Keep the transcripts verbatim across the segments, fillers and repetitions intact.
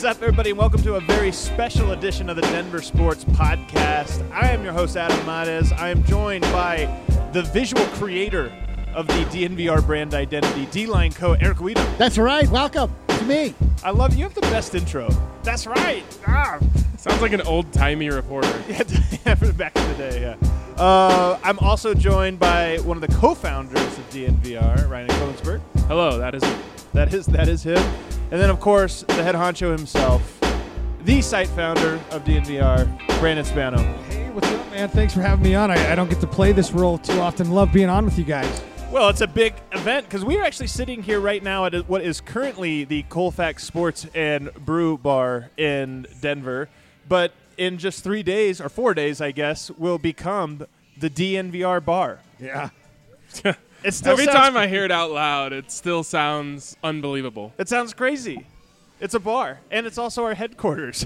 is up, everybody, and welcome to a very special edition of the Denver Sports Podcast. I am your host, Adam Mares. I am joined by the visual creator of the D N V R brand identity, D-Line Co, Eric Weedham. That's right. Welcome to me. I love you. Have the best intro. That's right. Ah. Sounds like an old-timey reporter. Yeah, back in the day, yeah. Uh, I'm also joined by one of the co-founders of D N V R, Ryan Koensberg. Hello, that is me. That is that is him. And then, of course, the head honcho himself, the site founder of D N V R, Brandon Spano. Hey, what's up, man? Thanks for having me on. I, I don't get to play this role too often. Love being on with you guys. Well, it's a big event because we are actually sitting here right now at what is currently the Colfax Sports and Brew Bar in Denver. But in just three days, or four days, I guess, will become the D N V R bar. Yeah. It still Every sounds time I hear it out loud, it still sounds unbelievable. It sounds crazy. It's a bar, and it's also our headquarters.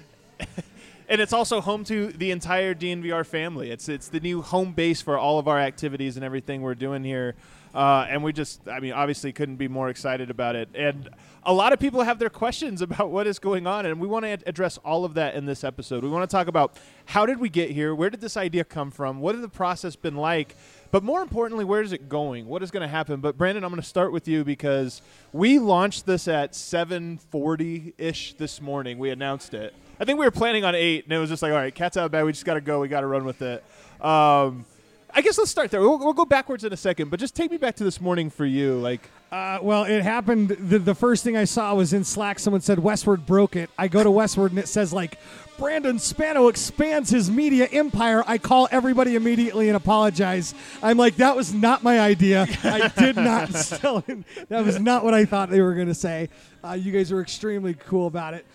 And it's also home to the entire D N V R family. It's it's the new home base for all of our activities and everything we're doing here. Uh, and we just, I mean, obviously couldn't be more excited about it. And a lot of people have their questions about what is going on, and we want to ad- address all of that in this episode. We want to talk about how did we get here? Where did this idea come from? What has the process been like? But more importantly, where is it going? What is going to happen? But, Brandon, I'm going to start with you because we launched this at seven forty-ish this morning. We announced it. I think we were planning on eight, and it was just like, all right, cat's out of bag. We just got to go. We got to run with it. Um, I guess let's start there. We'll, we'll go backwards in a second, but just take me back to this morning for you. Like, Uh, well, it happened. The, the first thing I saw was in Slack. Someone said Westward broke it. I go to Westward, and it says, like, Brandon Spano expands his media empire. I call everybody immediately and apologize. I'm like, that was not my idea. I did not sell it. That was not what I thought they were going to say. Uh, you guys were extremely cool about it.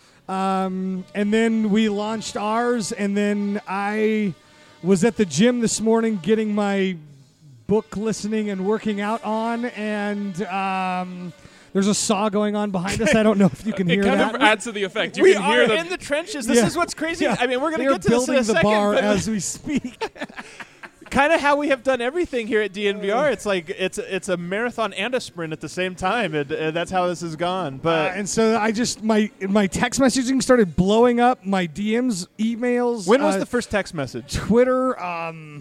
Um, and then we launched ours, and then I was at the gym this morning getting my book listening and working out on, and um, there's a saw going on behind us. I don't know if you can it hear kind that. of adds to the effect. You we can are hear the in the trenches. This Yeah. is what's crazy. Yeah. I mean, we're going to They're get to this in building a the second. bar but as we speak. kind of how we have done everything here at D N V R. It's like it's it's a marathon and a sprint at the same time, and, and that's how this has gone. But Uh, and so I just my my text messaging started blowing up. My D Ms, emails. when was uh, the first text message? Twitter? Um,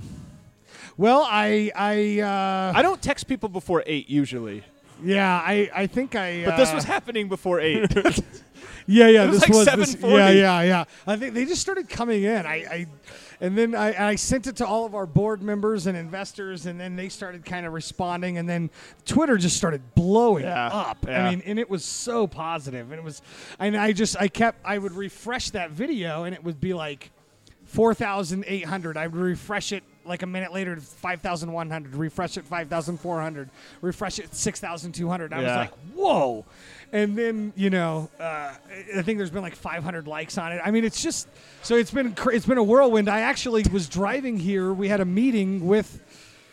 well, I I uh, I don't text people before eight usually, yeah I I think I. but this uh, was happening before eight. Yeah, yeah. It was this like was seven this, forty. Yeah, yeah, yeah. I think they just started coming in. I, I and then I, I sent it to all of our board members and investors, and then they started kind of responding, and then Twitter just started blowing Yeah, up. yeah. I mean, and it was so positive, and it was, and I just I kept I would refresh that video, and it would be like four thousand eight hundred. I would refresh it like a minute later to five thousand one hundred, refresh it five thousand four hundred, refresh it six thousand two hundred. I was Yeah. like, whoa. And then, you know, uh, I think there's been like five hundred likes on it. I mean, it's just, so it's been cr- it's been a whirlwind. I actually was driving here. We had a meeting with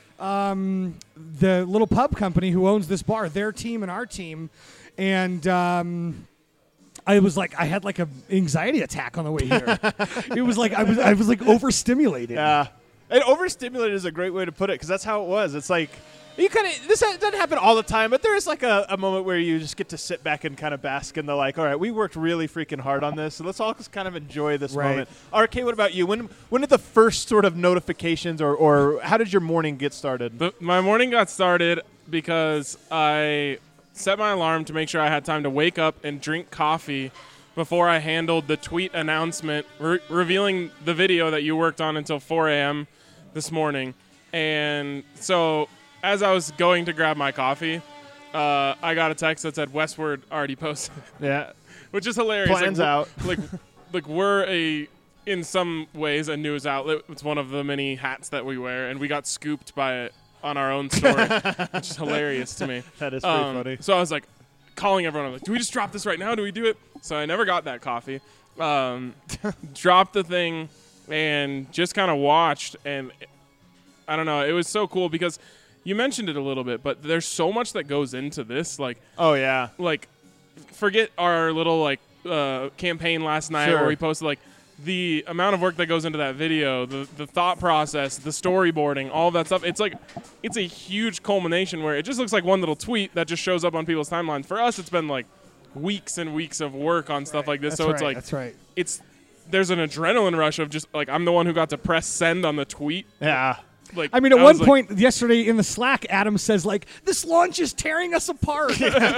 um, the little pub company who owns this bar, their team and our team. And um, I was like, I had like an anxiety attack on the way here. It was like, I was, I was like overstimulated. Yeah, and overstimulated is a great way to put it because that's how it was. It's like you kind of this ha- doesn't happen all the time, but there is like a, a moment where you just get to sit back and kind of bask in the like, all right, we worked really freaking hard on this, so let's all just kind of enjoy this Right. moment. R K, what about you? When when did the first sort of notifications or or how did your morning get started? The, my morning got started because I set my alarm to make sure I had time to wake up and drink coffee before I handled the tweet announcement re- revealing the video that you worked on until four a.m. this morning. And so as I was going to grab my coffee, uh, I got a text that said Westward already posted, Yeah, which is hilarious. Plans like, out. like, like we're a, in some ways, a news outlet. It's one of the many hats that we wear, and we got scooped by it on our own story, which is hilarious to me. that is pretty Um, funny. So I was like calling everyone. I'm like, do we just drop this right now? Do we do it? So I never got that coffee. Um, dropped the thing and just kind of watched. And I don't know. It was so cool because you mentioned it a little bit, but there's so much that goes into this. Like, Oh yeah, like forget our little like uh, campaign last night Sure. where we posted like the amount of work that goes into that video, the the thought process, the storyboarding, all of that stuff. It's like it's a huge culmination where it just looks like one little tweet that just shows up on people's timelines. For us, it's been like weeks and weeks of work on stuff like this. That's so right. it's like That's right. it's there's an adrenaline rush of just like I'm the one who got to press send on the tweet. Yeah. Like I mean, at I one was like- point yesterday in the Slack, Adam says like, "This launch is tearing us apart."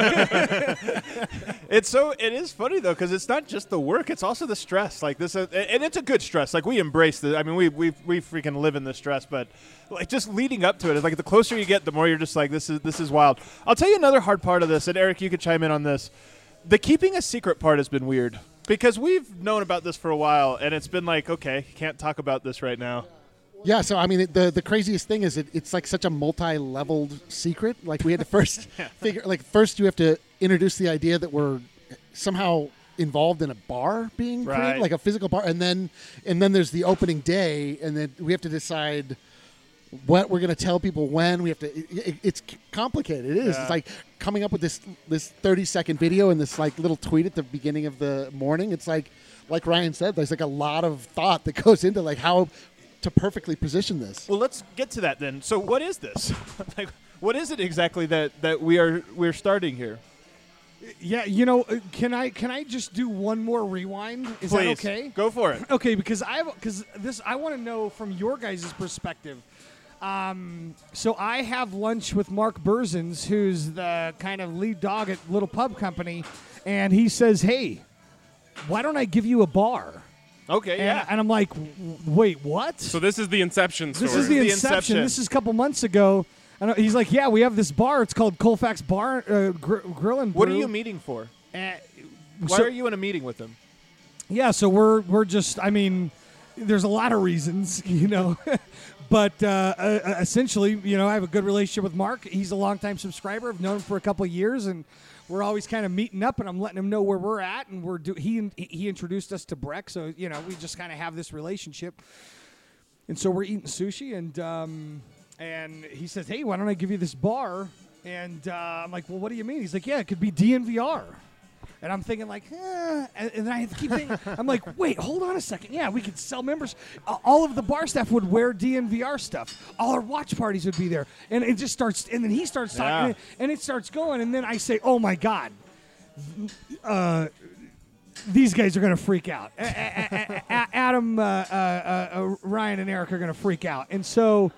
It's so it is funny though because it's not just the work; it's also the stress. Like this, uh, and it's a good stress. Like we embrace the. I mean, we we we freaking live in the stress, but like just leading up to it is like the closer you get, the more you're just like this is this is wild. I'll tell you another hard part of this, and Eric, you could chime in on this. The keeping a secret part has been weird because we've known about this for a while, and it's been like, okay, you can't talk about this right now. Yeah, so I mean, it, the the craziest thing is it, it's like such a multi-leveled secret. Like we had to first figure, like first you have to introduce the idea that we're somehow involved in a bar being Right. created, like a physical bar, and then and then there's the opening day, and then we have to decide what we're going to tell people when. We have to. It, it, it's complicated. It is. Yeah. It's like coming up with this this thirty second video and this like little tweet at the beginning of the morning. It's like like Ryan said, there's like a lot of thought that goes into like how to perfectly position this. Well, let's get to that then. So, what is this? Like, what is it exactly that, that we are we're starting here? Yeah, you know, uh, can I can I just do one more rewind? Is Please, that okay? go for it. Okay, because I because this I want to know from your guys' perspective. Um, so I have lunch with Mark Berzins, who's the kind of lead dog at Little Pub Company, and he says, "Hey, why don't I give you a bar?" Okay, And, yeah. and I'm like, "W- "Wait, what?" So this is the inception story. This is the, The inception. inception. This is a couple months ago. And he's like, "Yeah, we have this bar. It's called Colfax Bar uh, Gr- Grill and Brew." What are you meeting for? Uh, Why so- are you in a meeting with them? Yeah, so we're we're just. I mean, there's a lot of reasons, you know, but uh, uh, essentially, you know, I have a good relationship with Mark. He's a longtime subscriber. I've known him for a couple of years, and we're always kind of meeting up, and I'm letting him know where we're at, and we're do- he he introduced us to Breck, so you know, we just kind of have this relationship, and so we're eating sushi, and um, and he says, "Hey, why don't I give you this bar?" And uh, I'm like, "Well, what do you mean?" He's like, "Yeah, it could be D N V R." And I'm thinking like, eh. and, and then I keep thinking, I'm like, wait, hold on a second. Yeah, we could sell members. Uh, all of the bar staff would wear D N V R stuff. All our watch parties would be there. And it just starts, and then he starts talking, Yeah. and, it, and it starts going. And then I say, oh my God, uh, these guys are going to freak out. A- a- a- a- Adam, uh, uh, uh, Ryan, and Eric are going to freak out. And so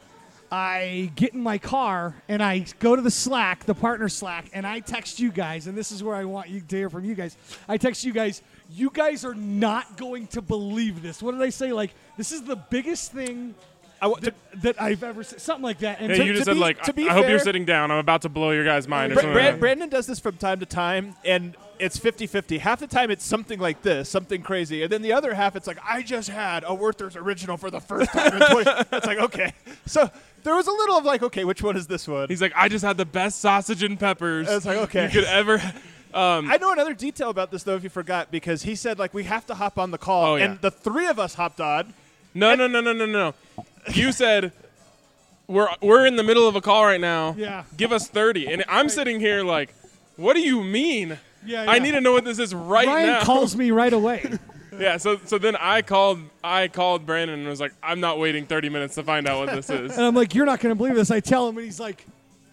I get in my car and I go to the Slack, the partner Slack, and I text you guys, and this is where I want you to hear from you guys. I text you guys, you guys are not going to believe this. What did I say? Like, this is the biggest thing I w- that, that I've ever said. Something like that. And Hey, to- you just to said be- like, to be I hope you're fair- sitting down. I'm about to blow your guys' mind. or Bra- something Bra- like that. Brandon does this from time to time, and it's fifty-fifty. Half the time it's something like this, something crazy, and then the other half it's like, I just had a Werther's Original for the first time in twenty. It's like, okay. So there was a little of like, okay, which one is this one? He's like, I just had the best sausage and peppers It's like, okay. you could ever. Um, I know another detail about this, though, if you forgot, because he said, like, we have to hop on the call, Oh, yeah. and the three of us hopped on. no, no, no, no, no, no. You said we're we're in the middle of a call right now. Yeah. Give us thirty, and I'm sitting here like, what do you mean? Yeah, I yeah. need to know what this is right Ryan now. calls me right away. Yeah, so so then I called I called Brandon and was like, I'm not waiting thirty minutes to find out what this is. And I'm like, you're not going to believe this. I tell him, and he's like,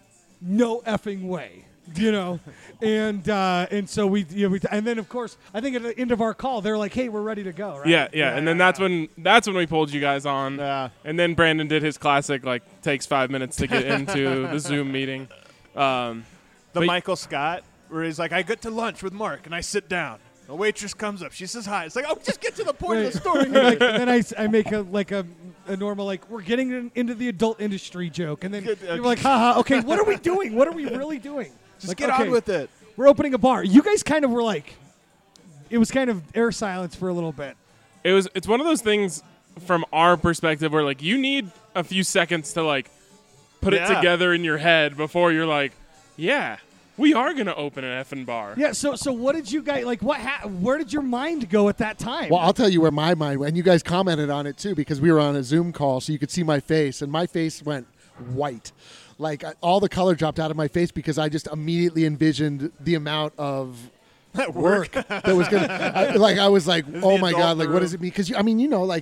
no effing way. You know, and uh, and so we, you know, we, and then of course, I think at the end of our call, they're like, "Hey, we're ready to go." Right? Yeah, yeah, and then that's when that's when we pulled you guys on. Yeah. And then Brandon did his classic like takes five minutes to get into the Zoom meeting. Um, The But- Michael Scott, where he's like, I get to lunch with Mark, and I sit down. A waitress comes up. She says hi. It's like, oh, just get to the point of Right. the story. And, like, and then I, s- I make a like a, a normal like we're getting in, into the adult industry joke, and then Good, you're okay. like, haha, okay, what are we doing? What are we really doing? Just Like, get okay, on with it. We're opening a bar. You guys kind of were like, it was kind of air silence for a little bit. it was it's one of those things from our perspective where like you need a few seconds to like put it Yeah. together in your head before you're like, yeah, we are gonna open an effing bar. Yeah. So so what did you guys like? What? Ha- where did your mind go at that time? Well, I'll tell you where my mind went. And you guys commented on it too because we were on a Zoom call, so you could see my face, and my face went white. Like I, all the color dropped out of my face because I just immediately envisioned the amount of work that was gonna. I, like I was like, oh the my adult god, like what room. does it mean? Because I mean, you know, like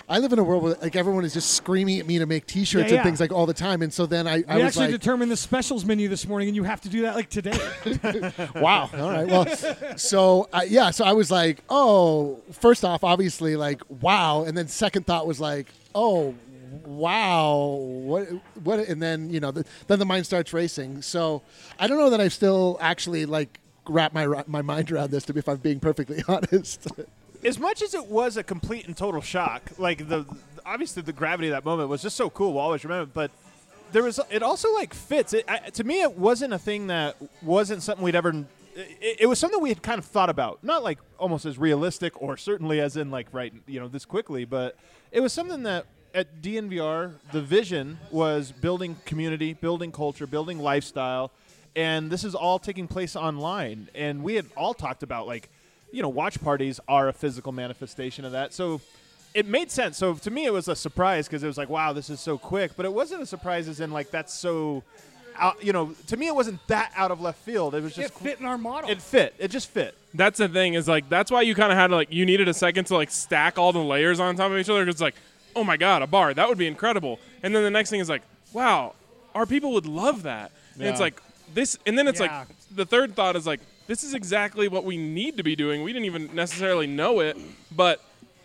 I live in a world where like everyone is just screaming at me to make T-shirts Yeah, yeah. and things like all the time, and so then I, I We was actually like, determined the specials menu this morning, and you have to do that like today. wow. All right. Well, so uh, yeah. So I was like, oh, first off, obviously, like, wow, and then second thought was like, oh, wow, what, what, and then you know, the, then the mind starts racing. So I don't know that I've still actually like wrapped my my mind around this. To be, if I'm being perfectly honest. As much as it was a complete and total shock, like the obviously the gravity of that moment was just so cool. We'll always remember. But there was it also like fits. It, I, to me, it wasn't a thing that wasn't something we'd ever. It, it was something we had kind of thought about, not like almost as realistic or certainly as in like right, you know, this quickly, but it was something that at D N V R the vision was building community, building culture, building lifestyle, and this is all taking place online. And we had all talked about like. You know, watch parties are a physical manifestation of that. So it made sense. So to me, it was a surprise because it was like, wow, this is so quick. But it wasn't a surprise as in like that's so, out, you know, to me, it wasn't that out of left field. It was just. It fit in our model. It fit. It just fit. That's the thing is like that's why you kind of had to like you needed a second to like stack all the layers on top of each other because it's like, oh my god, a bar that would be incredible. And then the next thing is like, wow, our people would love that. And Yeah. it's like this, and then it's Yeah. like the third thought is like. This is exactly what we need to be doing. We didn't even necessarily know it, but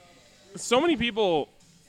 so many people,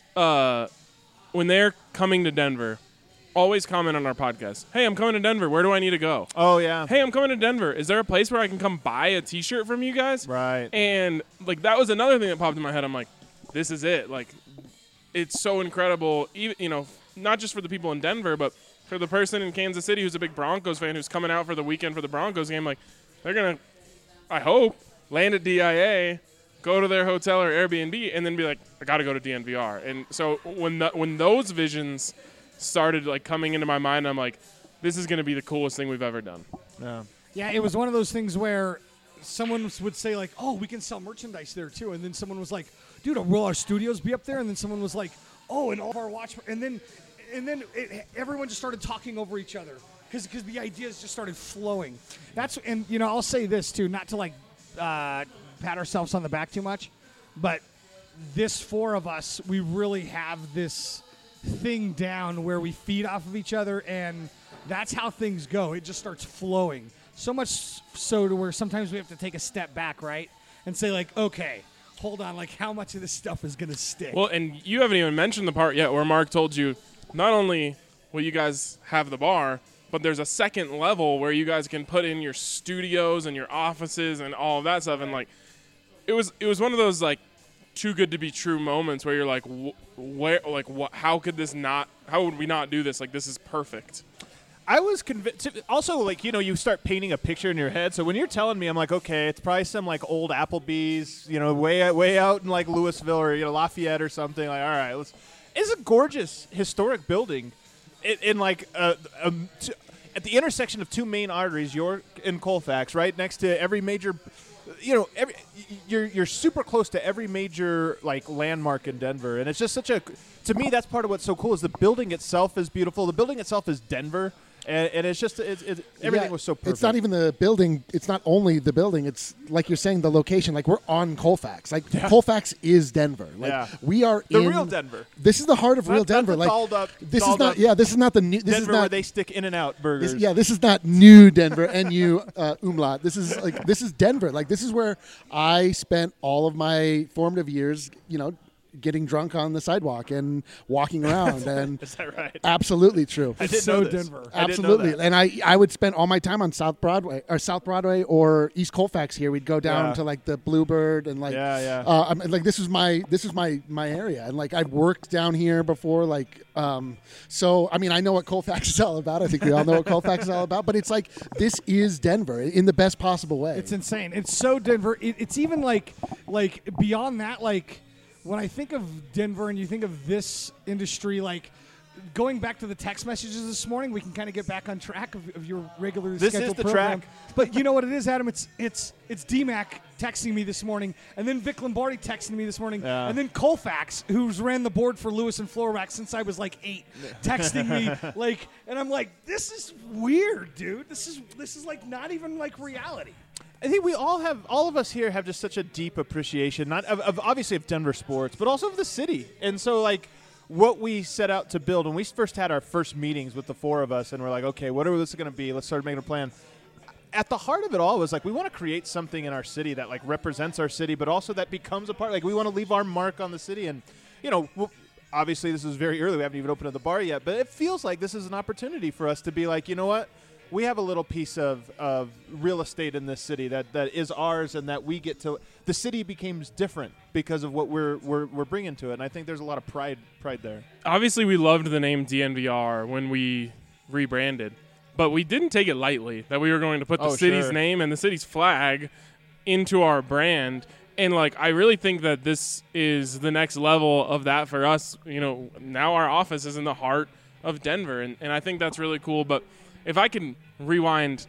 uh, when they're coming to Denver, always comment on our podcast. Hey, I'm coming to Denver. Where do I need to go? Oh yeah. Hey, I'm coming to Denver. Is there a place where I can come buy a T-shirt from you guys? Right. And like that was another thing that popped in my head. I'm like, this is it. Like, it's so incredible. Even you know, not just for the people in Denver, but for the person in Kansas City who's a big Broncos fan who's coming out for the weekend for the Broncos game. Like. They're going to, I hope, land at D I A, go to their hotel or Airbnb, and then be like, I got to go to D N V R. And so when the, when those visions started like coming into my mind, I'm like, this is going to be the coolest thing we've ever done. Yeah. Yeah, it was one of those things where someone would say like, oh, we can sell merchandise there too. And then someone was like, dude, will our studios be up there? And then someone was like, oh, and all of our watch. And then, and then it, everyone just started talking over each other. Because the ideas just started flowing. That's and you know I'll say this too, not to like uh, pat ourselves on the back too much, but this four of us, we really have this thing down where we feed off of each other, and that's how things go. It just starts flowing. So much so to where sometimes we have to take a step back, right, and say like, okay, hold on, like how much of this stuff is gonna stick? Well, and you haven't even mentioned the part yet where Mark told you not only will you guys have the bar. But there's a second level where you guys can put in your studios and your offices and all of that stuff. And like, it was it was one of those like too good to be true moments where you're like, wh- where like what? How could this not? How would we not do this? Like this is perfect. I was convinced. Also, like you know, you start painting a picture in your head. So when you're telling me, I'm like, okay, it's probably some like old Applebee's, you know, way way out in like Louisville or you know Lafayette or something. Like, all right, let's. It's a gorgeous historic building. In, in like uh, um, t- at the intersection of two main arteries, York and Colfax, right next to every major, you know, every you're you're super close to every major like landmark in Denver, and it's just such a. To me, that's part of what's so cool is the building itself is beautiful. The building itself is Denver. And, and it's just it's, it's, everything Yeah, was so perfect. It's not even the building. It's not only the building. It's like you're saying, the location. Like we're on Colfax. Like Yeah. Colfax is Denver. Like Yeah. we are The in real Denver. This is the heart of Not- real not Denver. the Like dolled up- this is dolled not. up Yeah, this is not the new. This Denver is where not. they stick In and Out burgers. This, yeah, this is not new Denver. N U uh, umlaut. This is like this is Denver. Like this is where I spent all of my formative years. You know, getting drunk on the sidewalk and walking around. And Is that right? absolutely true. I didn't so know this. Denver. I didn't know Absolutely, that. and I I would spend all my time on South Broadway or South Broadway or East Colfax. Here, we'd go down Yeah. to like the Bluebird and like Yeah, yeah. Uh, I mean, like this was my this was my my area, and like I've worked down here before. Like, um, so I mean, I know what Colfax is all about. I think we all know what Colfax is all about. But it's like this is Denver in the best possible way. It's insane. It's so Denver. It, it's even like like beyond that. Like when I think of Denver and you think of this industry, like going back to the text messages this morning, we can kind of get back on track of, of your regularly This is scheduled the program. track. But you know what it is, Adam? It's it's it's D Mac texting me this morning, and then Vic Lombardi texting me this morning, Yeah. and then Colfax, who's ran the board for Lewis and Floorwax since I was like eight, texting me like, and I'm like, this is weird, dude. This is this is like not even like reality. I think we all have, all of us here have just such a deep appreciation, not of, of obviously of Denver sports, but also of the city. And so, like, what we set out to build, when we first had our first meetings with the four of us, and we're like, okay, what are this going to be? Let's start making a plan. At the heart of it all was, like, we want to create something in our city that, like, represents our city, but also that becomes a part. Like, we want to leave our mark on the city. And, you know, we'll, obviously this is very early. We haven't even opened up the bar yet, but it feels like this is an opportunity for us to be like, you know what? We have a little piece of, of real estate in this city that, that is ours, and that we get to. The city becomes different because of what we're, we're we're bringing to it, and I think there's a lot of pride pride there. Obviously, we loved the name D N V R when we rebranded, but we didn't take it lightly that we were going to put the Oh, city's sure. name and the city's flag into our brand. And, like, I really think that this is the next level of that for us. You know, now our office is in the heart of Denver, and, and I think that's really cool. But if I can rewind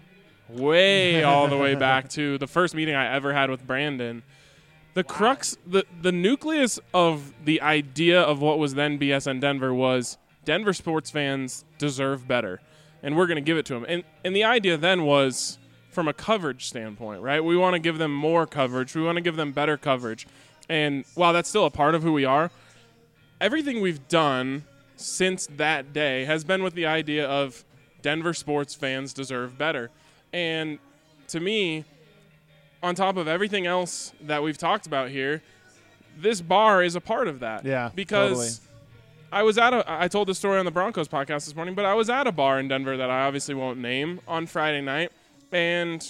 way all the way back to the first meeting I ever had with Brandon, the crux, the, the nucleus of the idea of what was then B S N Denver was Denver sports fans deserve better, and we're going to give it to them. And, and the idea then was from a coverage standpoint, right? We want to give them more coverage. We want to give them better coverage. And while that's still a part of who we are, everything we've done since that day has been with the idea of Denver sports fans deserve better. And to me, on top of everything else that we've talked about here, this bar is a part of that. Yeah, because totally. I was at a, I told the story on the Broncos podcast this morning, but I was at a bar in Denver that I obviously won't name on Friday night, and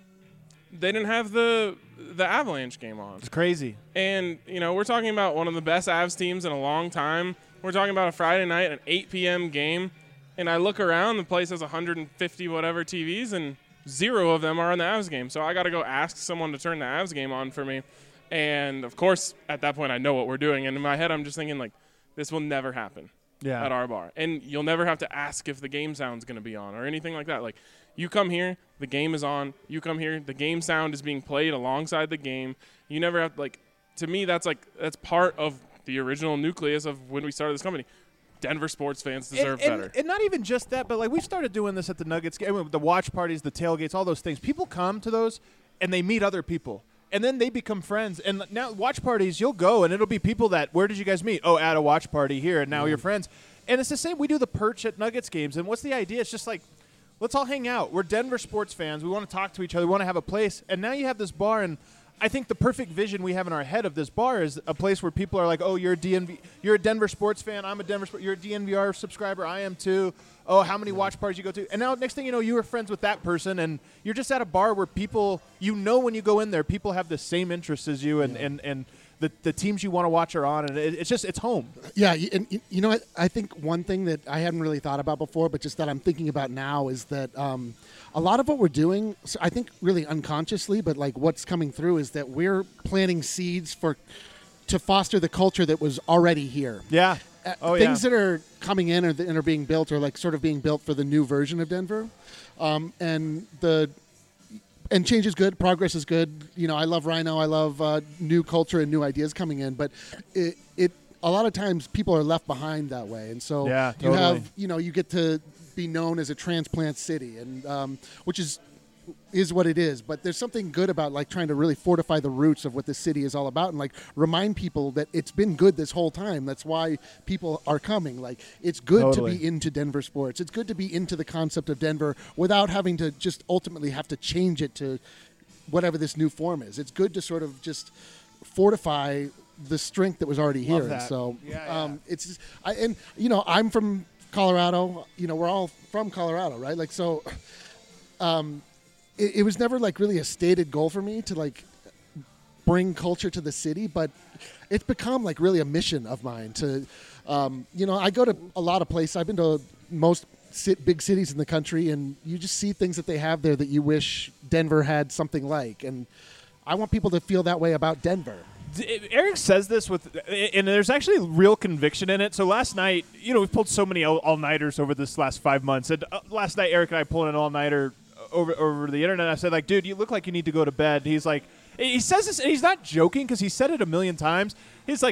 they didn't have the the Avalanche game on. It's crazy. And, you know, we're talking about one of the best Avs teams in a long time. We're talking about a Friday night, an eight p.m. game. And I look around, the place has one hundred fifty whatever T Vs, and zero of them are on the Avs game. So I got to go ask someone to turn the Avs game on for me. And, of course, at that point, I know what we're doing. And in my head, I'm just thinking, like, this will never happen Yeah. at our bar. And you'll never have to ask if the game sound's going to be on or anything like that. Like, you come here, the game is on. You come here, the game sound is being played alongside the game. You never have, like, to me, that's, like, that's part of the original nucleus of when we started this company. Denver sports fans deserve and, and, better. And not even just that, but like we started doing this at the Nuggets game, the watch parties, the tailgates, all those things. People come to those and they meet other people. And then they become friends. And now watch parties, you'll go and it'll be people that, where did you guys meet? Oh, at a watch party here, and now Mm. you're friends. And it's the same. We do the perch at Nuggets games. And what's the idea? It's just like, let's all hang out. We're Denver sports fans. We want to talk to each other. We want to have a place. And now you have this bar, and I think the perfect vision we have in our head of this bar is a place where people are like, oh, you're a D N V, you're a Denver sports fan. I'm a Denver, sport, you're a D N V R subscriber. I am too. Oh, how many watch parties you go to? And now next thing you know, you were friends with that person, and you're just at a bar where people, you know, when you go in there, people have the same interests as you, and, and, and the, the teams you want to watch are on, and it, it's just, it's home. Yeah, y- and y- you know what? I think one thing that I hadn't really thought about before, but just that I'm thinking about now, is that um, a lot of what we're doing, so I think really unconsciously, but like what's coming through is that we're planting seeds for to foster the culture that was already here. Yeah. Uh, Oh, things yeah. that are coming in or th- and are being built are like sort of being built for the new version of Denver, um, and the and change is good, progress is good. You know, I love Rhino, I love uh, new culture and new ideas coming in, but it it a lot of times people are left behind that way, and so Yeah, you totally. have you know you get to be known as a transplant city, and um, which is is what it is. But there's something good about like trying to really fortify the roots of what this city is all about, and like remind people that it's been good this whole time. That's why people are coming. Like it's good Totally. to be into Denver sports. It's good to be into the concept of Denver without having to just ultimately have to change it to whatever this new form is. It's good to sort of just fortify the strength that was already here. Love And that. so Yeah, yeah. um, it's just, I, and you know I'm from Colorado. You know we're all from Colorado, right? Like so. Um, it, it was never like really a stated goal for me to like bring culture to the city, but it's become like really a mission of mine to, um, you know, I go to a lot of places. I've been to most sit, big cities in the country, and you just see things that they have there that you wish Denver had something like. And I want people to feel that way about Denver. D- Eric says this with, and there's actually real conviction in it. So last night, you know, we've pulled so many all- all-nighters over this last five months. And uh, last night, Eric and I pulled an all-nighter over over the internet. I said, like, dude, you look like you need to go to bed. He's like, he says this, and he's not joking because he said it a million times. He's like,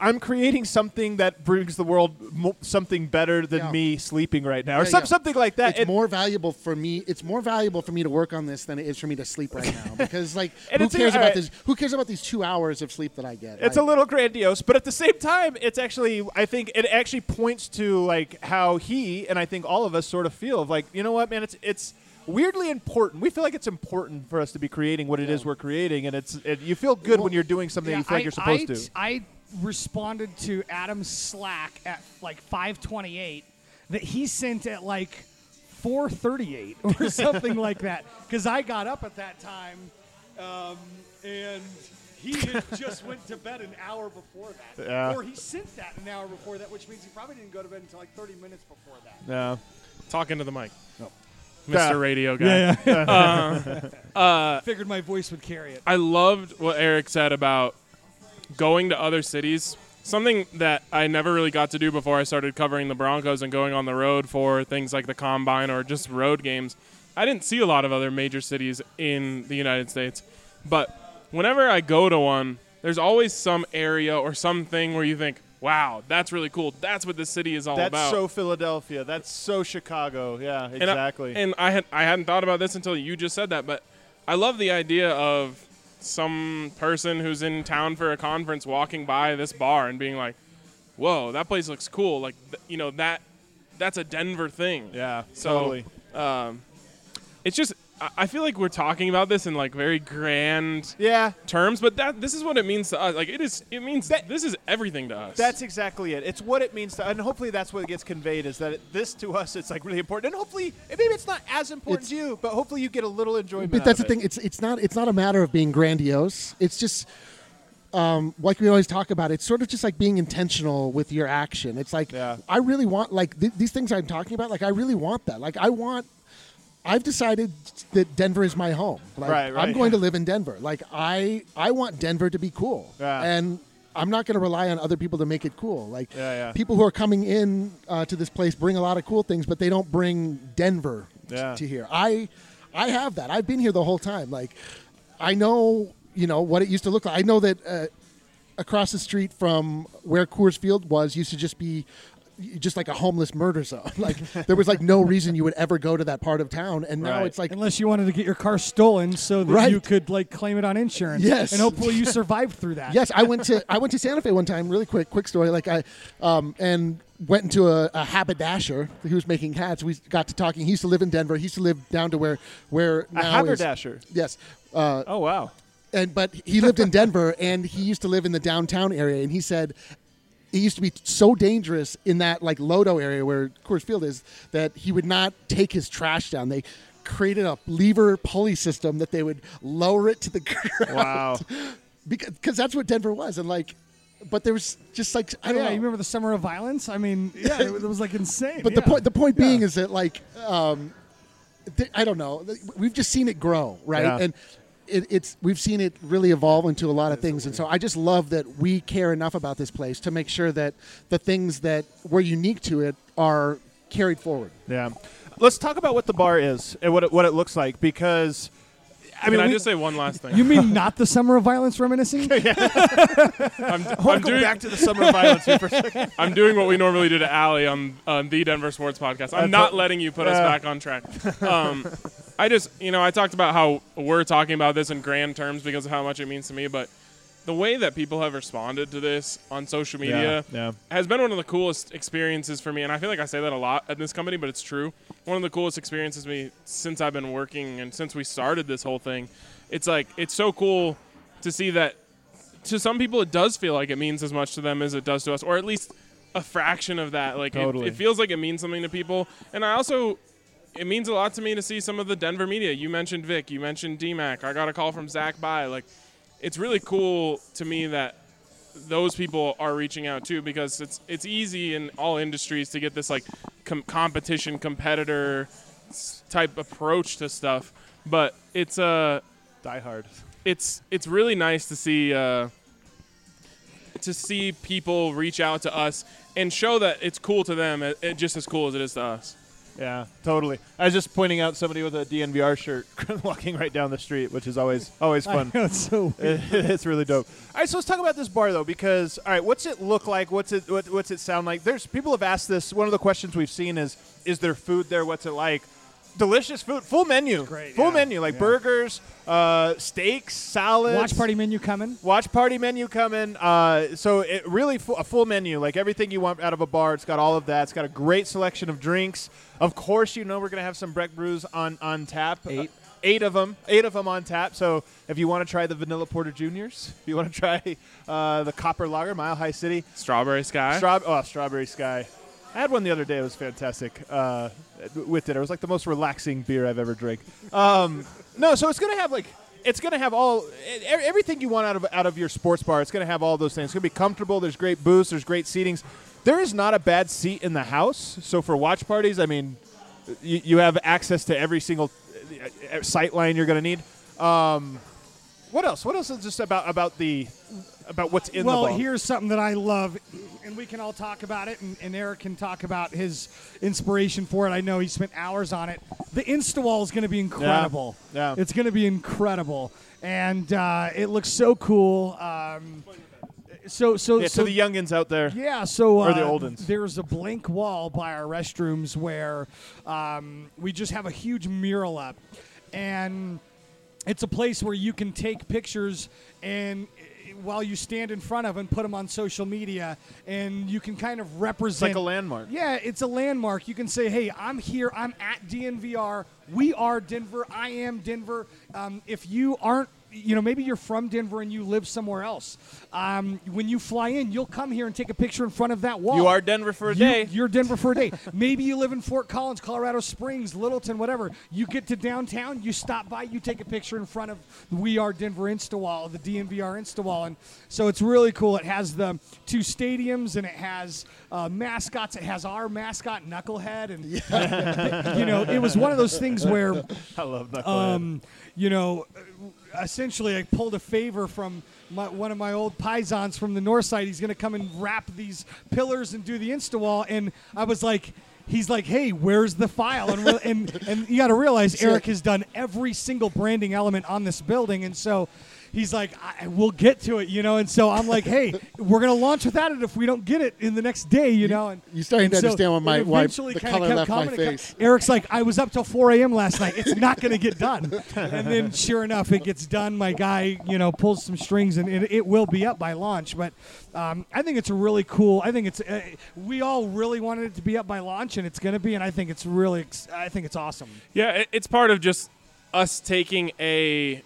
I'm creating something that brings the world mo- something better than Yeah. me sleeping right now, or Yeah, some, yeah. something like that. It's And- more valuable for me. It's more valuable for me to work on this than it is for me to sleep right now. Because like, And who it's- cares all about right. this? Who cares about these two hours of sleep that I get? It's Like, a little grandiose, but at the same time, it's actually, I think it actually points to like how he and I think all of us sort of feel of like, you know what, man, it's it's weirdly important. We feel like it's important for us to be creating what it is we're creating, and it's it, you feel good Well, when you're doing something Yeah, you feel like I- you're supposed I, to. I responded to Adam's Slack at like five twenty-eight that he sent at like four thirty-eight or something like that. Because I got up at that time, um, and he had just went to bed an hour before that. Yeah. Or he sent that an hour before that, which means he probably didn't go to bed until like thirty minutes before that. Yeah. Talking to the mic. Oh. Mister Yeah. Radio guy. yeah. Uh, Figured my voice would carry it. I loved what Eric said about going to other cities. Something that I never really got to do before I started covering the Broncos and going on the road for things like the Combine or just road games. I didn't see a lot of other major cities in the United States. But whenever I go to one, there's always some area or something where you think, wow, that's really cool. That's what this city is all That's about. so Philadelphia. That's so Chicago. Yeah, And I- exactly. And I, had I hadn't thought about this until you just said that, but I love the idea of some person who's in town for a conference walking by this bar and being like, "Whoa, that place looks cool!" Like, th- you know that that's a Denver thing. yeah, So, totally. Um, it's just I- I feel like we're talking about this in like very grand Yeah, terms, but that this is what it means to us. Like, it is. It means That- this is everything to us. that's exactly it. It's what it means to, and hopefully that's what gets conveyed is that it, this to us, it's like really important, and hopefully maybe it's not as important It's- to you, but hopefully you get a little enjoyment. But that's out the of thing. It's it's not it's not a matter of being grandiose. It's just um, like we always talk about. It's sort of just like being intentional with your action. It's like Yeah. I really want like th- these things I'm talking about. Like I really want that. Like I want. I've decided that Denver is my home. Like, Right, right. I'm going to live in Denver. Like I I want Denver to be cool. Yeah. And I'm not going to rely on other people to make it cool. Like Yeah, yeah. people who are coming in uh, to this place bring a lot of cool things, but they don't bring Denver t- Yeah. to here. I I have that. I've been here the whole time. Like I know, you know, what it used to look like. I know that uh, across the street from where Coors Field was used to just be just like a homeless murder zone. Like there was like no reason you would ever go to that part of town, and now Right. it's like Unless you wanted to get your car stolen so that Right. you could like claim it on insurance. Yes. And hopefully you survived through that. yes, I went to I went to Santa Fe one time. Really quick, quick story. Like I um, and went into a, a haberdasher who was making hats. We got to talking. He used to live in Denver. He used to live down to where where A now is- haberdasher. Yes. Uh, Oh wow. and but he lived in Denver, and he used to live in the downtown area. And he said it used to be so dangerous in that like Lodo area where Coors Field is that he would not take his trash down. They created a lever pulley system that they would lower it to the ground. Wow. because cause that's what Denver was. And like, but there was just like I Oh, don't yeah, know. you remember the summer of violence? I mean, yeah, it, was- it was like insane. But the yeah. point the point being Yeah. is that like um, th- I don't know. We've just seen it grow, right? Yeah. And it, it's we've seen it really evolve into a lot of things, and so I just love that we care enough about this place to make sure that the things that were unique to it are carried forward. Yeah. Let's talk about what the bar is and what it, what it looks like, because I Can mean, I we- just say one last thing? You mean not the summer of violence reminiscing? I'm, I want I'm to go doing back to the summer of violence here for a second. I'm doing what we normally do to Allie on, on the Denver Sports Podcast. I'm I not thought- letting you put us uh. back on track. Um, I just, you know, I talked about how we're talking about this in grand terms because of how much it means to me, but the way that people have responded to this on social media Yeah, yeah. has been one of the coolest experiences for me. And I feel like I say that a lot at this company, but it's true. One of the coolest experiences for me since I've been working and since we started this whole thing. It's like, it's so cool to see that to some people it does feel like it means as much to them as it does to us, or at least a fraction of that. Like Totally. it, it feels like it means something to people. And I also, it means a lot to me to see some of the Denver media. You mentioned Vic, you mentioned D Mac. I got a call from Zach By. Like, it's really cool to me that those people are reaching out too, because it's it's easy in all industries to get this like com- competition competitor s- type approach to stuff, but it's uh Die Hard. it's it's really nice to see uh, to see people reach out to us and show that it's cool to them, it, it just as cool as it is to us. Yeah, totally. I was just pointing out somebody with a D N V R shirt walking right down the street, which is always always fun. I know, it's so weird. It's really dope. All right, so let's talk about this bar though, because all right, what's it look like? What's it what, what's it sound like? There's people have asked this. One of the questions we've seen is, is there food there? What's it like? Delicious food, full menu, great, full yeah, menu, like yeah. burgers, uh, steaks, salads. Watch party menu coming. Watch party menu coming. Uh, so it really fu- a full menu, like everything you want out of a bar. It's got all of that. It's got a great selection of drinks. Of course, you know we're gonna have some Breck brews on on tap. Eight. Uh, eight of them. Eight of them on tap. So if you want to try the Vanilla Porter Juniors, if you want to try uh, the Copper Lager, Mile High City, Strawberry Sky. Straw- oh, Strawberry Sky. I had one the other day. It was fantastic. Uh, with dinner, it was like the most relaxing beer I've ever drank. Um, no, so it's gonna have like it's gonna have all e- everything you want out of out of your sports bar. It's gonna have all those things. It's gonna be comfortable. There's great booths. There's great seatings. There is not a bad seat in the house. So for watch parties, I mean, you, you have access to every single uh, sight line you're gonna need. Um, what else? What else is just about about the about what's in well, the bar? here's something that I love, and we can all talk about it, and, and Eric can talk about his inspiration for it. I know he spent hours on it. The Instawall is going to be incredible. Yeah. It's going to be incredible, and uh, it looks so cool. Um, so, so, yeah, so to the youngins out there. Yeah, so uh, Or the old ones. there's a blank wall by our restrooms where um, we just have a huge mural up, and it's a place where you can take pictures and while you stand in front of and put them on social media, and you can kind of It's represent like a landmark. Yeah, it's a landmark. You can say, hey, I'm here. I'm at D N V R. We are Denver. I am Denver. Um, if you aren't, you know, maybe you're from Denver and you live somewhere else. Um, when you fly in, you'll come here and take a picture in front of that wall. You are Denver for a You- day. You're Denver for a day. Maybe you live in Fort Collins, Colorado Springs, Littleton, whatever. You get to downtown, you stop by, you take a picture in front of We Are Denver Instawall, the D N V R Instawall. And so it's really cool. It has the two stadiums, and it has uh, mascots. It has our mascot, Knucklehead. And, you know, it was one of those things where, I love Knucklehead. um, you know, essentially I pulled a favor from my, one of my old paisans from the north side. He's going to come and wrap these pillars and do the Instawall. And I was like, he's like, hey, where's the file? And re- and, and you got to realize Eric has done every single branding element on this building. And so he's like, I, we'll get to it, you know. And so I'm like, hey, we're going to launch without it if we don't get it in the next day, you know. And You're starting to and so understand what my it why eventually the kinda color kept left my coming and co- face. Eric's like, I was up till four a.m. last night. It's not going to get done. And then sure enough, it gets done. My guy, you know, pulls some strings, and it, it will be up by launch. But um, I think it's a really cool. I think it's. Uh, we all really wanted it to be up by launch, and it's going to be. And I think it's really. Ex- I think it's awesome. Yeah, it, it's part of just us taking a.